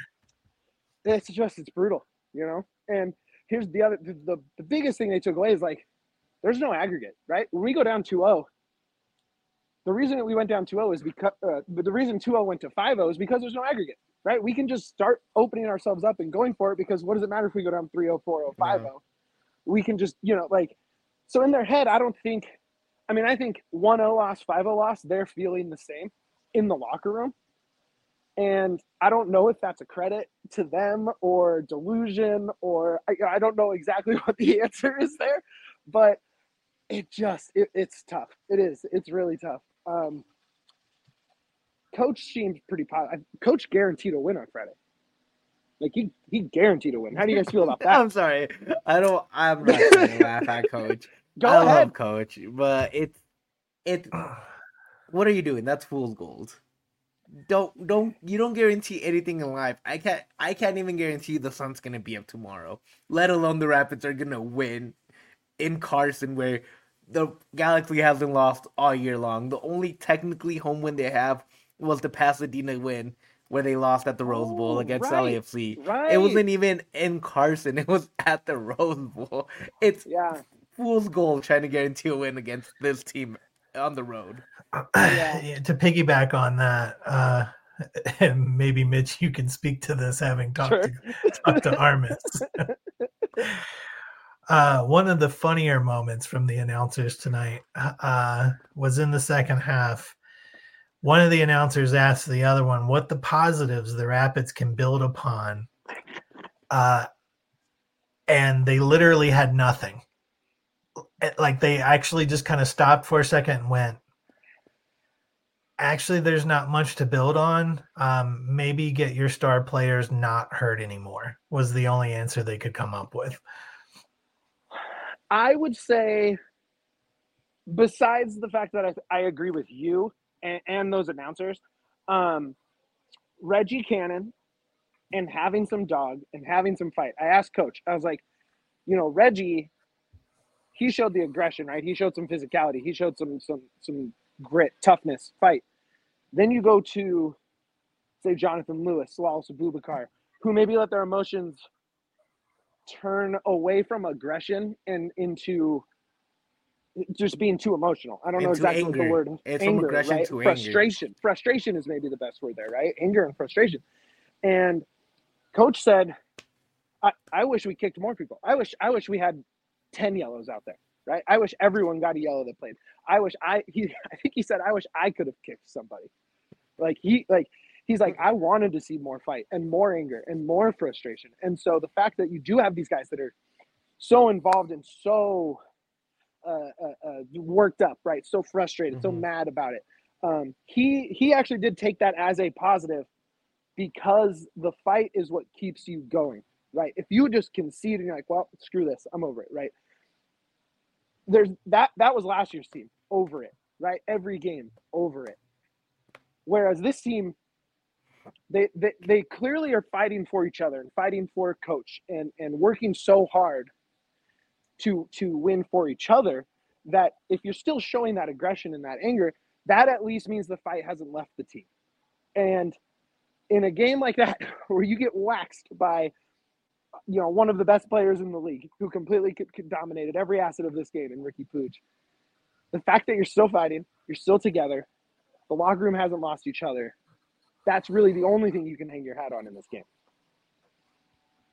it's brutal, you know? And here's the biggest thing they took away is like, there's no aggregate, right? When we go down 2-0, the reason that we went down 2-0 is because, but the reason 2-0 went to 5-0 is because there's no aggregate, right? We can just start opening ourselves up and going for it, because what does it matter if we go down 3-0, 4-0, 5-0? We can just, you know, like, so in their head, I think 1-0 loss, 5-0 loss, they're feeling the same in the locker room. And I don't know if that's a credit to them or delusion, or I don't know exactly what the answer is there, but it's tough. It is. It's really tough. Coach seems pretty positive. Coach guaranteed a win on Friday. Like he guaranteed a win. How do you guys feel about that? I'm sorry. I'm not going to laugh at Coach. Go I ahead. love Coach, but it's what are you doing? That's fool's gold. You don't guarantee anything in life. I can't even guarantee the sun's gonna be up tomorrow, let alone the Rapids are gonna win in Carson, where the Galaxy hasn't lost all year long. The only technically home win they have was the Pasadena win, where they lost at the Rose Bowl against LAFC. Right. It wasn't even in Carson, it was at the Rose Bowl. It's fool's gold trying to guarantee a win against this team on the road. To piggyback on that, and maybe Mitch, you can speak to this, having talked to Armis. One of the funnier moments from the announcers tonight was in the second half. One of the announcers asked the other one what the positives the Rapids can build upon, and they literally had nothing. Like, they actually just kind of stopped for a second and went, actually, there's not much to build on. Maybe get your star players not hurt anymore was the only answer they could come up with. I would say, besides the fact that I agree with you and those announcers, Reggie Cannon and having some dog and having some fight. I asked Coach, I was like, you know, Reggie, he showed the aggression, right? He showed some physicality. He showed some grit, toughness, fight. Then you go to, say, Jonathan Lewis, Slaus Abubakar, who maybe let their emotions turn away from aggression and into just being too emotional. I don't know exactly what the word is. It's anger, from aggression right? to frustration. Anger. Frustration is maybe the best word there, right? Anger and frustration. And Coach said, I wish we kicked more people. I wish we had 10 yellows out there, right? I wish everyone got a yellow that played. I think he said, I wish I could have kicked somebody. He's like, I wanted to see more fight and more anger and more frustration. And so the fact that you do have these guys that are so involved and so worked up, right? So frustrated, so mad about it. He actually did take that as a positive, because the fight is what keeps you going, right? If you just concede and you're like, well, screw this, I'm over it, right? There's that was last year's team, over it, right? Every game, over it. Whereas this team, they clearly are fighting for each other and fighting for Coach and working so hard to win for each other, that if you're still showing that aggression and that anger, that at least means the fight hasn't left the team. And in a game like that, where you get waxed by, you know, one of the best players in the league, who completely dominated every asset of this game in Ricky Pooch, the fact that you're still fighting, you're still together, the locker room hasn't lost each other, that's really the only thing you can hang your hat on in this game.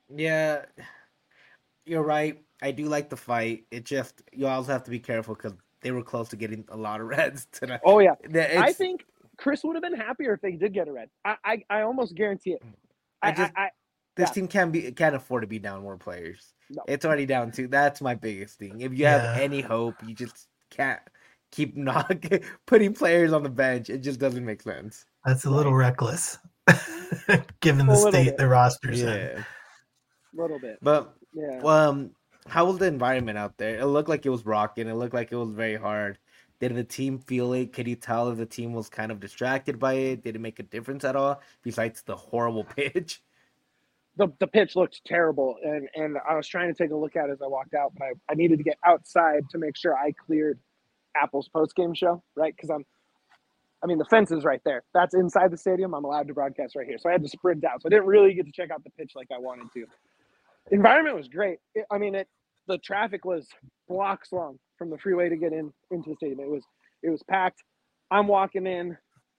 Yeah, you're right. I do like the fight. It just you also have to be careful because they were close to getting a lot of reds tonight. Oh yeah, I It's think Chris would have been happier if they did get a red. I almost guarantee it. I just this Yeah, team can't afford to be down more players. no. It's already down two. That's my biggest thing. If you have Yeah. any hope, you just can't keep not putting players on the bench. It just doesn't make sense. That's a little reckless, given A the little state bit. the roster's in. Yeah, Little bit. but Yeah. how was the environment out there? It looked like it was rocking. It looked like it was very hard. Did the team feel it? Could you tell if the team was kind of distracted by it? Did it make a difference at all besides the horrible pitch? The pitch looked terrible, and I was trying to take a look at it as I walked out, but I needed to get outside to make sure I cleared Apple's post game show, right? Because the fence is right there. That's inside the stadium. I'm allowed to broadcast right here, so I had to sprint out. So I didn't really get to check out the pitch like I wanted to. The environment was great. The traffic was blocks long from the freeway to get into the stadium. It was packed. I'm walking in.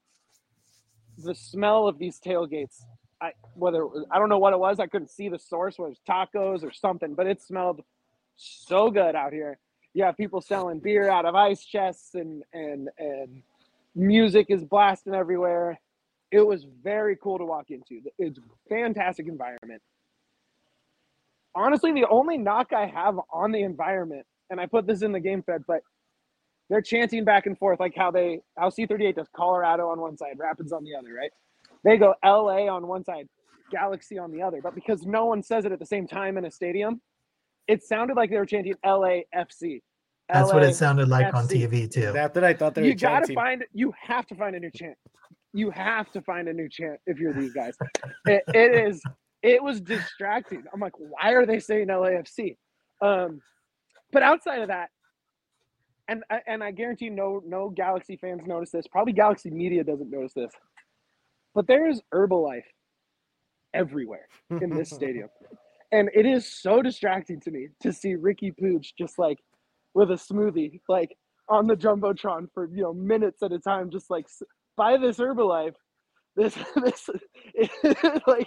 The smell of these tailgates. I don't know what it was. I couldn't see the source. Whether it was tacos or something, but it smelled so good out here. You have people selling beer out of ice chests, and music is blasting everywhere. It was very cool to walk into. It's a fantastic environment. Honestly, the only knock I have on the environment, and I put this in the game fed, but they're chanting back and forth like how C38 does Colorado on one side, Rapids on the other, right? They go LA on one side, Galaxy on the other. But because no one says it at the same time in a stadium, it sounded like they were chanting LAFC. That's what it sounded like on TV too. That's what I thought they were chanting. You have to find a new chant. You have to find a new chant if you're these guys. It was distracting. I'm like, why are they saying LAFC? But outside of that, and I guarantee no Galaxy fans notice this. Probably Galaxy media doesn't notice this. But there's Herbalife everywhere in this stadium. And it is so distracting to me to see Ricky Pooch just like with a smoothie, like on the Jumbotron for, minutes at a time, just like buy this Herbalife. This like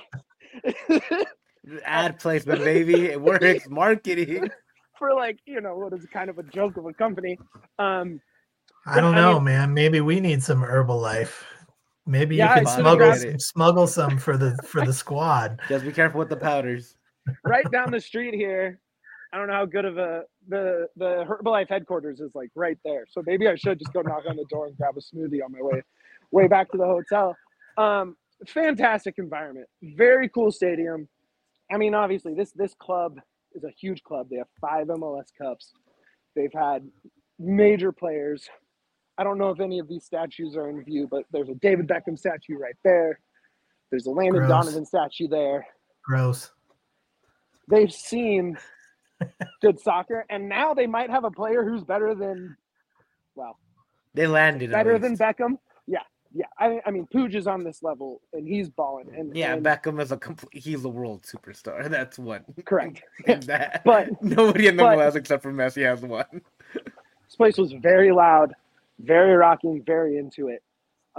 ad placement, baby. It works. Marketing. For what is kind of a joke of a company. I don't know, man. Maybe we need some Herbalife. Maybe you could smuggle some for the squad. Just be careful with the powders. Right down the street here. I don't know how good of the Herbalife headquarters is like right there. So maybe I should just go knock on the door and grab a smoothie on my way back to the hotel. Fantastic environment. Very cool stadium. Obviously this club is a huge club. They have 5 MLS Cups. They've had major players. I don't know if any of these statues are in view, but there's a David Beckham statue right there. There's a Landon Donovan statue there. Gross. They've seen good soccer, and now they might have a player who's better than, they landed better than Beckham. Yeah. Pooch is on this level, and he's balling. And Beckham is he's a world superstar. That's one. Correct. But nobody in the MLS except for Messi has one. This place was very loud, very rocking, very into it.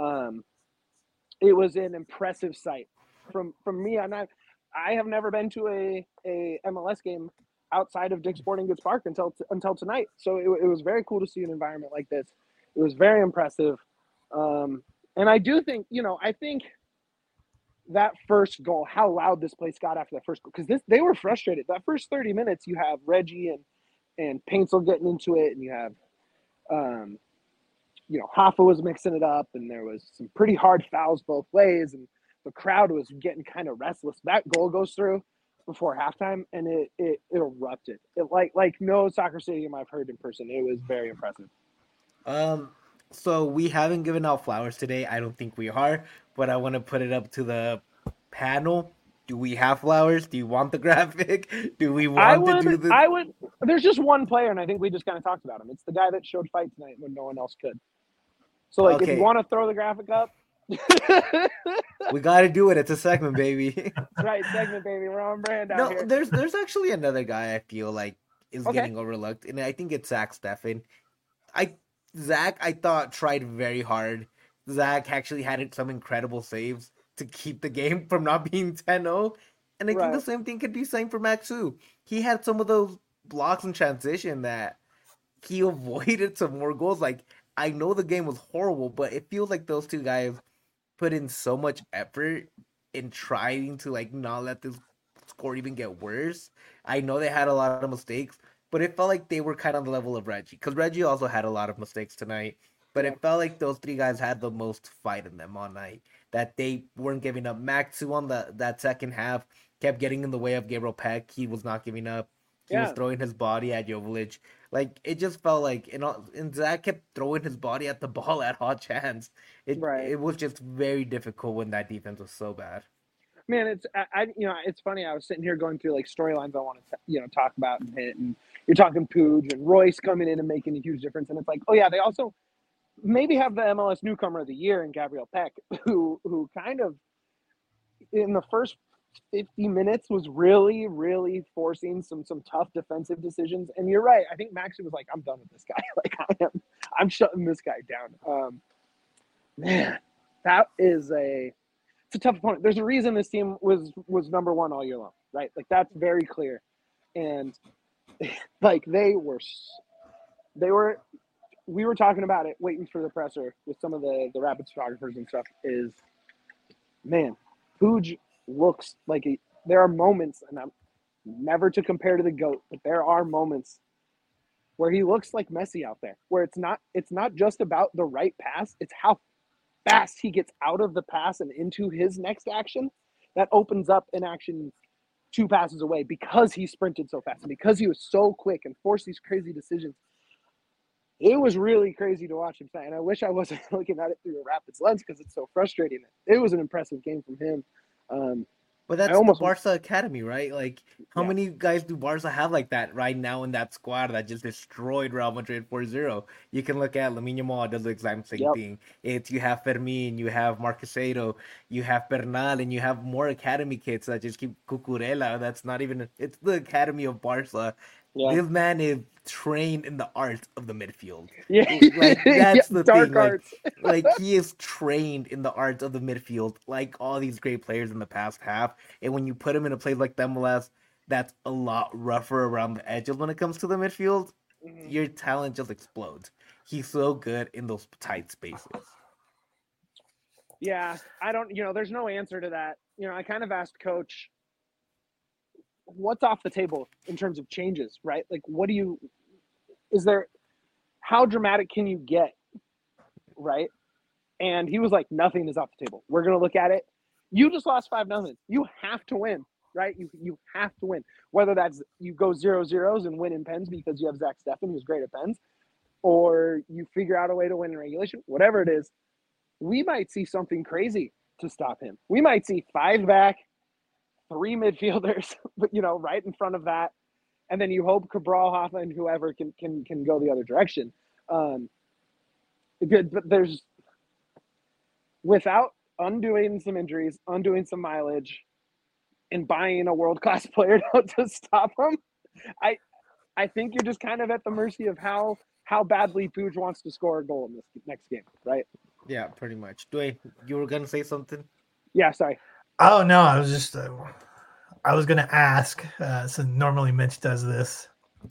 It was an impressive sight from me. And I have never been to a MLS game outside of Dick's Sporting Goods Park until tonight. So it was very cool to see an environment like this. It was very impressive. And I do think, I think that first goal, how loud this place got after that first goal, because they were frustrated. That first 30 minutes, you have Reggie and Paintsel getting into it, and you have, Hoffa was mixing it up, and there was some pretty hard fouls both ways, and the crowd was getting kind of restless. That goal goes through before halftime, and it erupted. It like no soccer stadium I've heard in person. It was very impressive. So we haven't given out flowers today. I don't think we are, but I want to put it up to the panel. Do we have flowers? Do you want the graphic? Do we want to do this? I would. There's just one player, and I think we just kind of talked about him. It's the guy that showed fight tonight when no one else could. So, if you want to throw the graphic up. We got to do it. It's a segment, baby. Right, segment, baby. We're on brand out here. There's actually another guy I feel like is getting overlooked, and I think it's Zach Steffen. Zach, I thought, tried very hard. Zach actually had some incredible saves to keep the game from not being 10-0. And I think the Right. same thing could be saying for Maxu. He had some of those blocks in transition that he avoided some more goals. Like, I know the game was horrible, but it feels like those two guys put in so much effort in trying to like not let this score even get worse. I know they had a lot of mistakes, but it felt like they were kind of on the level of Reggie because Reggie also had a lot of mistakes tonight. But Yeah. it felt like those three guys had the most fight in them all night. That they weren't giving up. Maxu on that second half kept getting in the way of Gabriel Peck. He was not giving up. He was Yeah. throwing his body at Joveljic. Like it just felt like, and Zach kept throwing his body at the ball at hot chance. Right. It was just very difficult when that defense was so bad. Man, it's funny. I was sitting here going through like storylines I want to talk about and hit, and you're talking Pooj and Royce coming in and making a huge difference, and it's like, oh yeah, they also maybe have the MLS newcomer of the year in Gabriel Peck, who kind of in the first 50 minutes was really, really forcing some tough defensive decisions. And you're right. I think Maxi was like, I'm done with this guy. Like I'm shutting this guy down. Man, that is it's a tough opponent. There's a reason this team was number one all year long, right? Like that's very clear. And like we were talking about it, waiting for the presser with some of the Rapids photographers and stuff. Is man, Pooj looks like there are moments, and I'm never to compare to the GOAT, but there are moments where he looks like Messi out there, where it's not just about the right pass, it's how fast he gets out of the pass and into his next action that opens up an action 2 passes away because he sprinted so fast and because he was so quick and forced these crazy decisions. It was really crazy to watch him play, and I wish I wasn't looking at it through a Rapids lens because it's so frustrating. It was an impressive game from him. But that's almost the Barca Academy, right? Like, how Yeah. many guys do Barca have like that right now in that squad that just destroyed Real Madrid 4-0? You can look at Lamine Yamal, does the exact same Yep. thing. It's you have Fermin, you have Marqueseiro, you have Bernal, and you have more academy kids that just keep Cucurella. That's not even, it's the Academy of Barca. Yeah. This man is trained in the art of the midfield. Yeah. Like that's the dark thing. arts. Like he is trained in the art of the midfield, like all these great players in the past half. And when you put him in a place like the MLS, that's a lot rougher around the edges when it comes to the midfield. Mhm. Your talent just explodes. He's so good in those tight spaces. Yeah, I don't. There's no answer to that. I kind of asked Coach, what's off the table in terms of changes, right? Like, how dramatic can you get, right? And he was like, nothing is off the table. We're going to look at it. You just lost 5-0. You have to win, right? You have to win. Whether that's you go 0-0 and win in pens because you have Zach Steffen, who's great at pens, or you figure out a way to win in regulation, whatever it is, we might see something crazy to stop him. We might see 5 back, 3 midfielders, but right in front of that, and then you hope Cabral, Hoffa, and whoever can go the other direction. But there's without undoing some injuries, undoing some mileage, and buying a world-class player to stop him, I think you're just kind of at the mercy of how badly Pooj wants to score a goal in this next game, right? Yeah, pretty much. Dwayne, you were gonna say something? Yeah, sorry. Oh no, I was just I was gonna ask. So normally Mitch does this.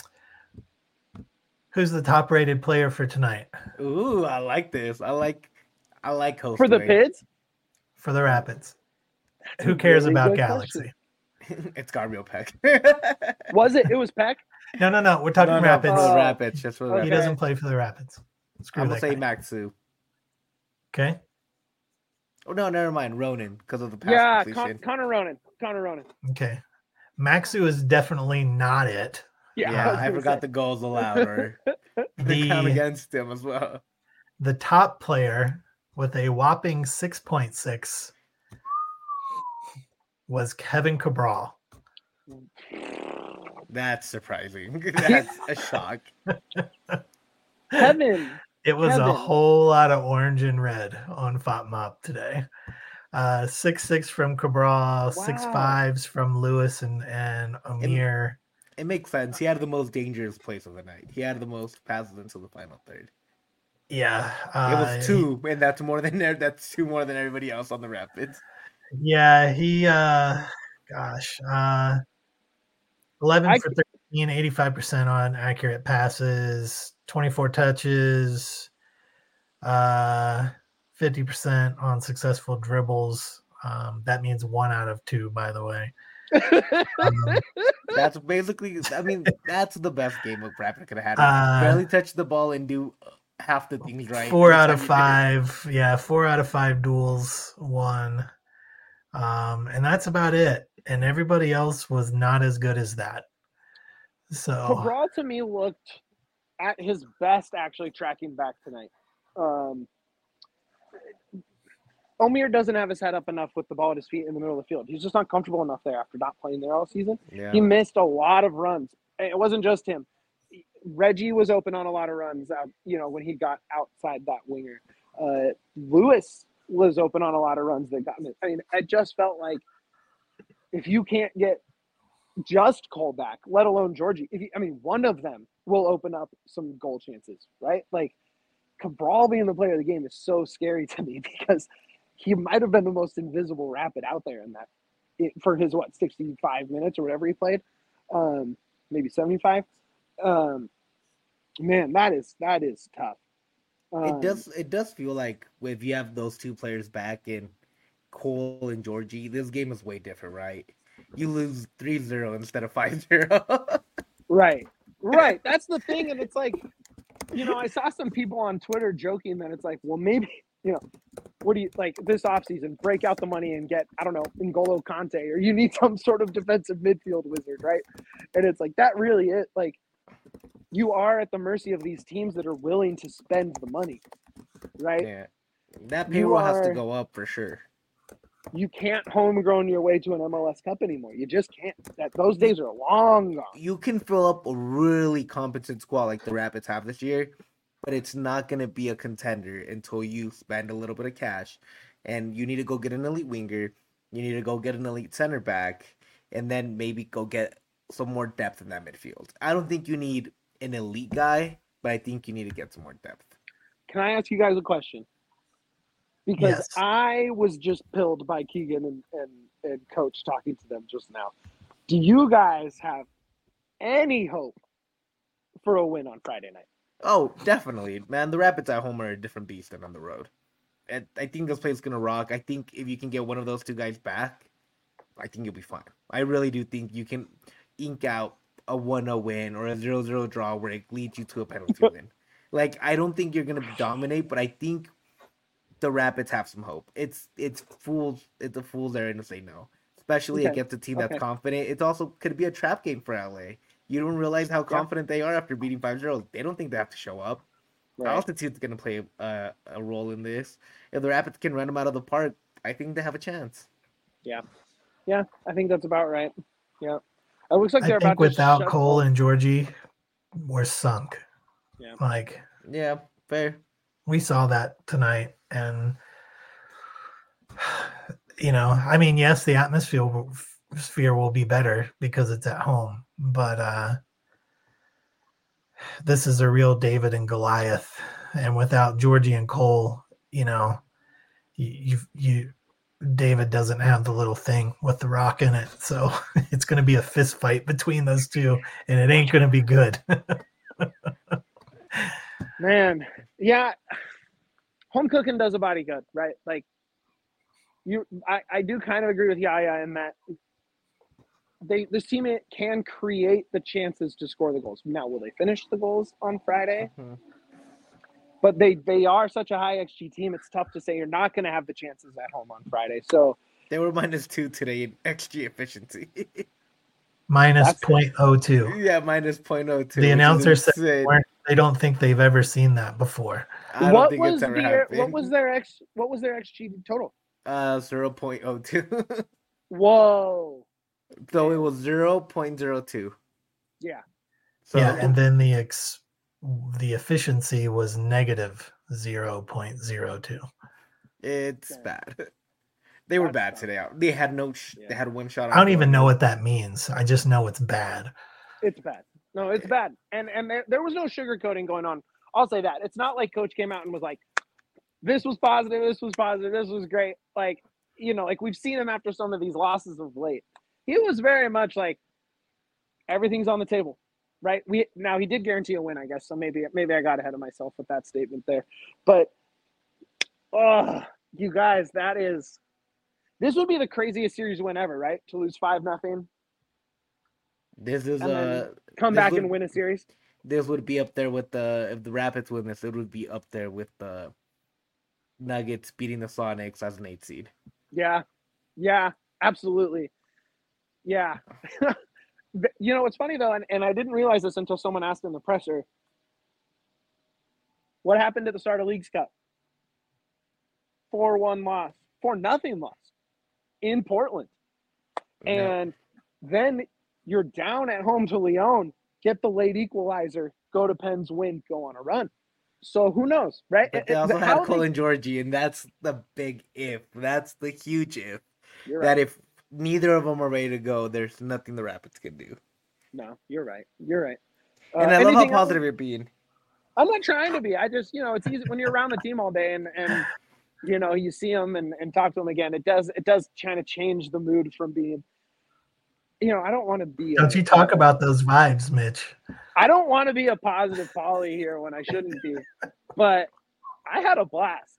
Who's the top-rated player for tonight? Ooh, I like this. I like host For the Dwayne. Pids? For the Rapids. Who cares really about good Galaxy? It's Gabriel Peck. Was it? It was Peck? No. We're talking Rapids. For the Rapids. Just for the Okay. He Rapids. doesn't play for the Rapids. Screw I'm that gonna say guy. Maxu. Okay. Oh no, never mind. Ronan, because of the pass Yeah, completion. Connor Ronan. Okay. Maxu is definitely not it. Yeah, was I gonna forgot say. the goals allowed or the count against him as well. The top player with a whopping 6.6 was Kevin Cabral. That's surprising. That's a shock. Kevin. It was Kevin. a whole lot of orange and red on FOTMOP today. 6.6 from Cabral, 6.5s from Lewis and Amir. It makes sense. He had the most dangerous plays of the night. He had the most passes into the final third. Yeah. It was 2, and that's 2 more than everybody else on the Rapids. Yeah, he Gosh, 11 I for 13, 85% on accurate passes, 24 touches, 50% on successful dribbles. That means 1 out of 2, by the way. Um, That's basically, I mean, that's the best game of Rapid could have had. Barely touch the ball and do half the things right. 4 each out time of you did it. 5. Yeah, 4 out of 5 duels won. And that's about it. And everybody else was not as good as that. So Cabral to me looked at his best actually tracking back tonight. Omir doesn't have his head up enough with the ball at his feet in the middle of the field. He's just not comfortable enough there after not playing there all season. Yeah. He missed a lot of runs. It wasn't just him. Reggie was open on a lot of runs, when he got outside that winger. Lewis was open on a lot of runs that got missed. I mean, it just felt like if you can't get just Cole back, let alone Georgie, one of them will open up some goal chances, right? Like Cabral being the player of the game is so scary to me because he might have been the most invisible Rapid out there in that for his 65 minutes or whatever he played, maybe 75. Man, that is tough. It does feel like if you have those two players back in Cole and Georgie, this game is way different, right? You lose 3-0 instead of 5-0. Right. That's the thing, and it's like, I saw some people on Twitter joking that it's like, well, maybe, what do you like this offseason? Break out the money and get, I don't know, N'Golo Kante, or you need some sort of defensive midfield wizard, right? And it's like that really is like you are at the mercy of these teams that are willing to spend the money, right? Yeah, that payroll has to go up for sure. You can't homegrown your way to an MLS Cup anymore. You just can't. Those days are long gone. You can fill up a really competent squad like the Rapids have this year, but it's not going to be a contender until you spend a little bit of cash. And you need to go get an elite winger. You need to go get an elite center back. And then maybe go get some more depth in that midfield. I don't think you need an elite guy, but I think you need to get some more depth. Can I ask you guys a question? Because yes. I was just pilled by Keegan and Coach talking to them just now. Do you guys have any hope for a win on Friday night? Oh, definitely, man. The Rapids at home are a different beast than on the road. And I think this place is going to rock. I think if you can get one of those two guys back, I think you'll be fine. I really do think you can ink out a 1-0 win or a 0-0 draw where it leads you to a penalty win. Like, I don't think you're going to dominate, but I think the Rapids have some hope. It's a fool's errand to say no, especially against a team that's confident. It's also could be a trap game for LA. You don't realize how confident they are after beating 5-0. They don't think they have to show up. Right. Altitude's going to play a role in this. If the Rapids can run them out of the park, I think they have a chance. Yeah, I think that's about right. Yeah, it looks like they're about without to Cole and Georgie, we're sunk. Yeah, fair. We saw that tonight, and yes, the atmosphere will be better because it's at home, but this is a real David and Goliath, and without Georgie and Cole, David doesn't have the little thing with the rock in it, so it's going to be a fist fight between those two, and it ain't going to be good. Man, yeah, home cooking does a body good, right? Like I do kind of agree with Yaya in that this team can create the chances to score the goals. Now, will they finish the goals on Friday? Mm-hmm. But they are such a high XG team. It's tough to say you're not going to have the chances at home on Friday. So they were -2 today in XG efficiency. Minus 0.02. Yeah, minus 0.02. The announcer said they don't think they've ever seen that before. I don't think it's ever happened. What was their XG total? 0.02. Whoa. So it was 0.02. Yeah. So and then the efficiency was negative 0.02. It's bad. They were bad today. They had they had one shot. I don't even know what that means. I just know it's bad. It's bad. No, it's bad. And there was no sugarcoating going on. I'll say that. It's not like Coach came out and was like, this was positive, this was positive, this was great. Like, like we've seen him after some of these losses of late. he was very much like everything's on the table, right? Now he did guarantee a win, I guess. So maybe I got ahead of myself with that statement there. But you guys, this would be the craziest series win ever, right? To lose 5-0. This is come back and win a series. This would be up there with if the Rapids win this, it would be up there with the Nuggets beating the Sonics as an 8 seed. Yeah, absolutely. Yeah. You know what's funny though, and I didn't realize this until someone asked in the presser. What happened at the start of Leagues Cup? 4-1 loss, 4-0 loss in Portland, and then you're down at home to Leon, get the late equalizer, go to Penn's win, go on a run. So who knows, right? But they also had Colin Georgie, and that's the big if. That's the huge if. You're that right. If neither of them are ready to go, there's nothing the Rapids can do. No, you're right. You're right. And I love how positive you're being. I'm not trying to be. I just, it's easy when you're around the team all day and you see them and talk to them again. It does kind of change the mood from being, I don't want to be. Don't you talk about those vibes, Mitch? I don't want to be a positive Polly here when I shouldn't be, but I had a blast.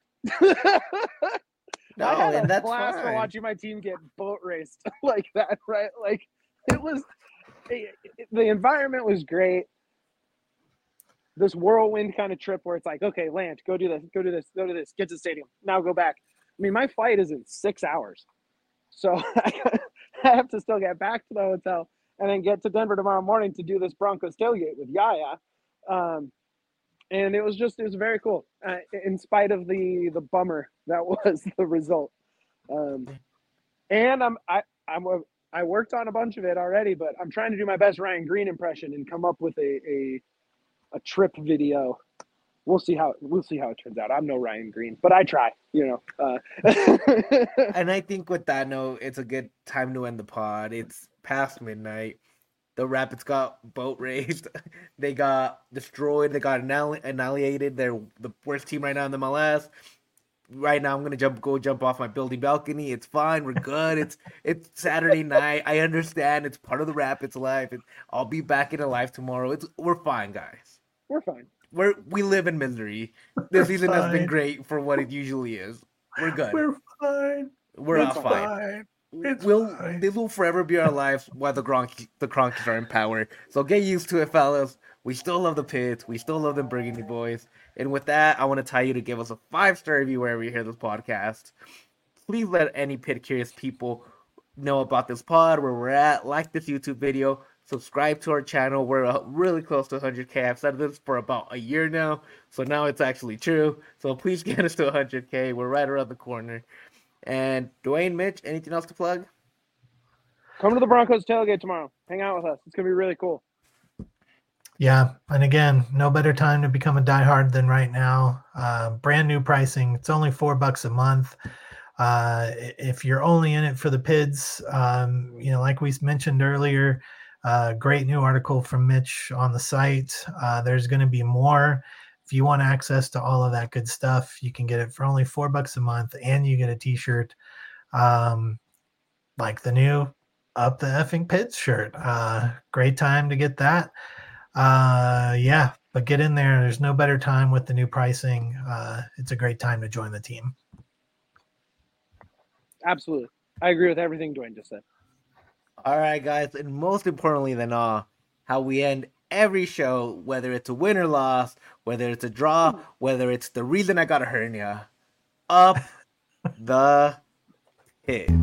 No, I had and a that's blast fine. for watching my team get boat raced like that, right? Like it was, the environment was great. This whirlwind kind of trip where it's like, okay, land, go do this, get to the stadium, now go back. I mean, my flight is in 6 hours, so I have to still get back to the hotel and then get to Denver tomorrow morning to do this Broncos tailgate with Yaya. And it was very cool, in spite of the bummer that was the result. And I worked on a bunch of it already, but I'm trying to do my best Ryan Green impression and come up with a trip video. We'll see how it turns out. I'm no Ryan Green, but I try. And I think with that note, it's a good time to end the pod. It's past midnight. The Rapids got boat raced. They got destroyed. They got annihilated. They're the worst team right now in the MLS. Right now, I'm gonna go jump off my building balcony. It's fine. We're good. It's Saturday night. I understand. It's part of the Rapids life. I'll be back in life tomorrow. We're fine, guys. We're fine. We live in misery. This season has been great for what it usually is. We're good. We're fine. We're all fine. This will forever be our lives while the Cronkies are in power. So get used to it, fellas. We still love the Pits. We still love the Burgundy Boys. And with that, I want to tell you to give us a 5-star review wherever you hear this podcast. Please let any Pit curious people know about this pod, where we're at. Like this YouTube video. Subscribe to our channel. We're really close to 100K. I've said this for about a year now, so now it's actually true. So please get us to 100K. We're right around the corner. And Dwayne, Mitch, anything else to plug? Come to the Broncos tailgate tomorrow. Hang out with us. It's going to be really cool. Yeah. And again, no better time to become a diehard than right now. Brand new pricing. It's only $4 a month. If you're only in it for the PIDs, like we mentioned earlier, great new article from Mitch on the site. There's going to be more. If you want access to all of that good stuff, you can get it for only $4 a month, and you get a t-shirt, like the new Up the Effing Pids shirt. Great time to get that. But get in there. There's no better time with the new pricing. It's a great time to join the team. Absolutely. I agree with everything Dwayne just said. All right, guys. And most importantly than all, how we end every show, whether it's a win or loss, whether it's a draw, whether it's the reason I got a hernia, up the Pits.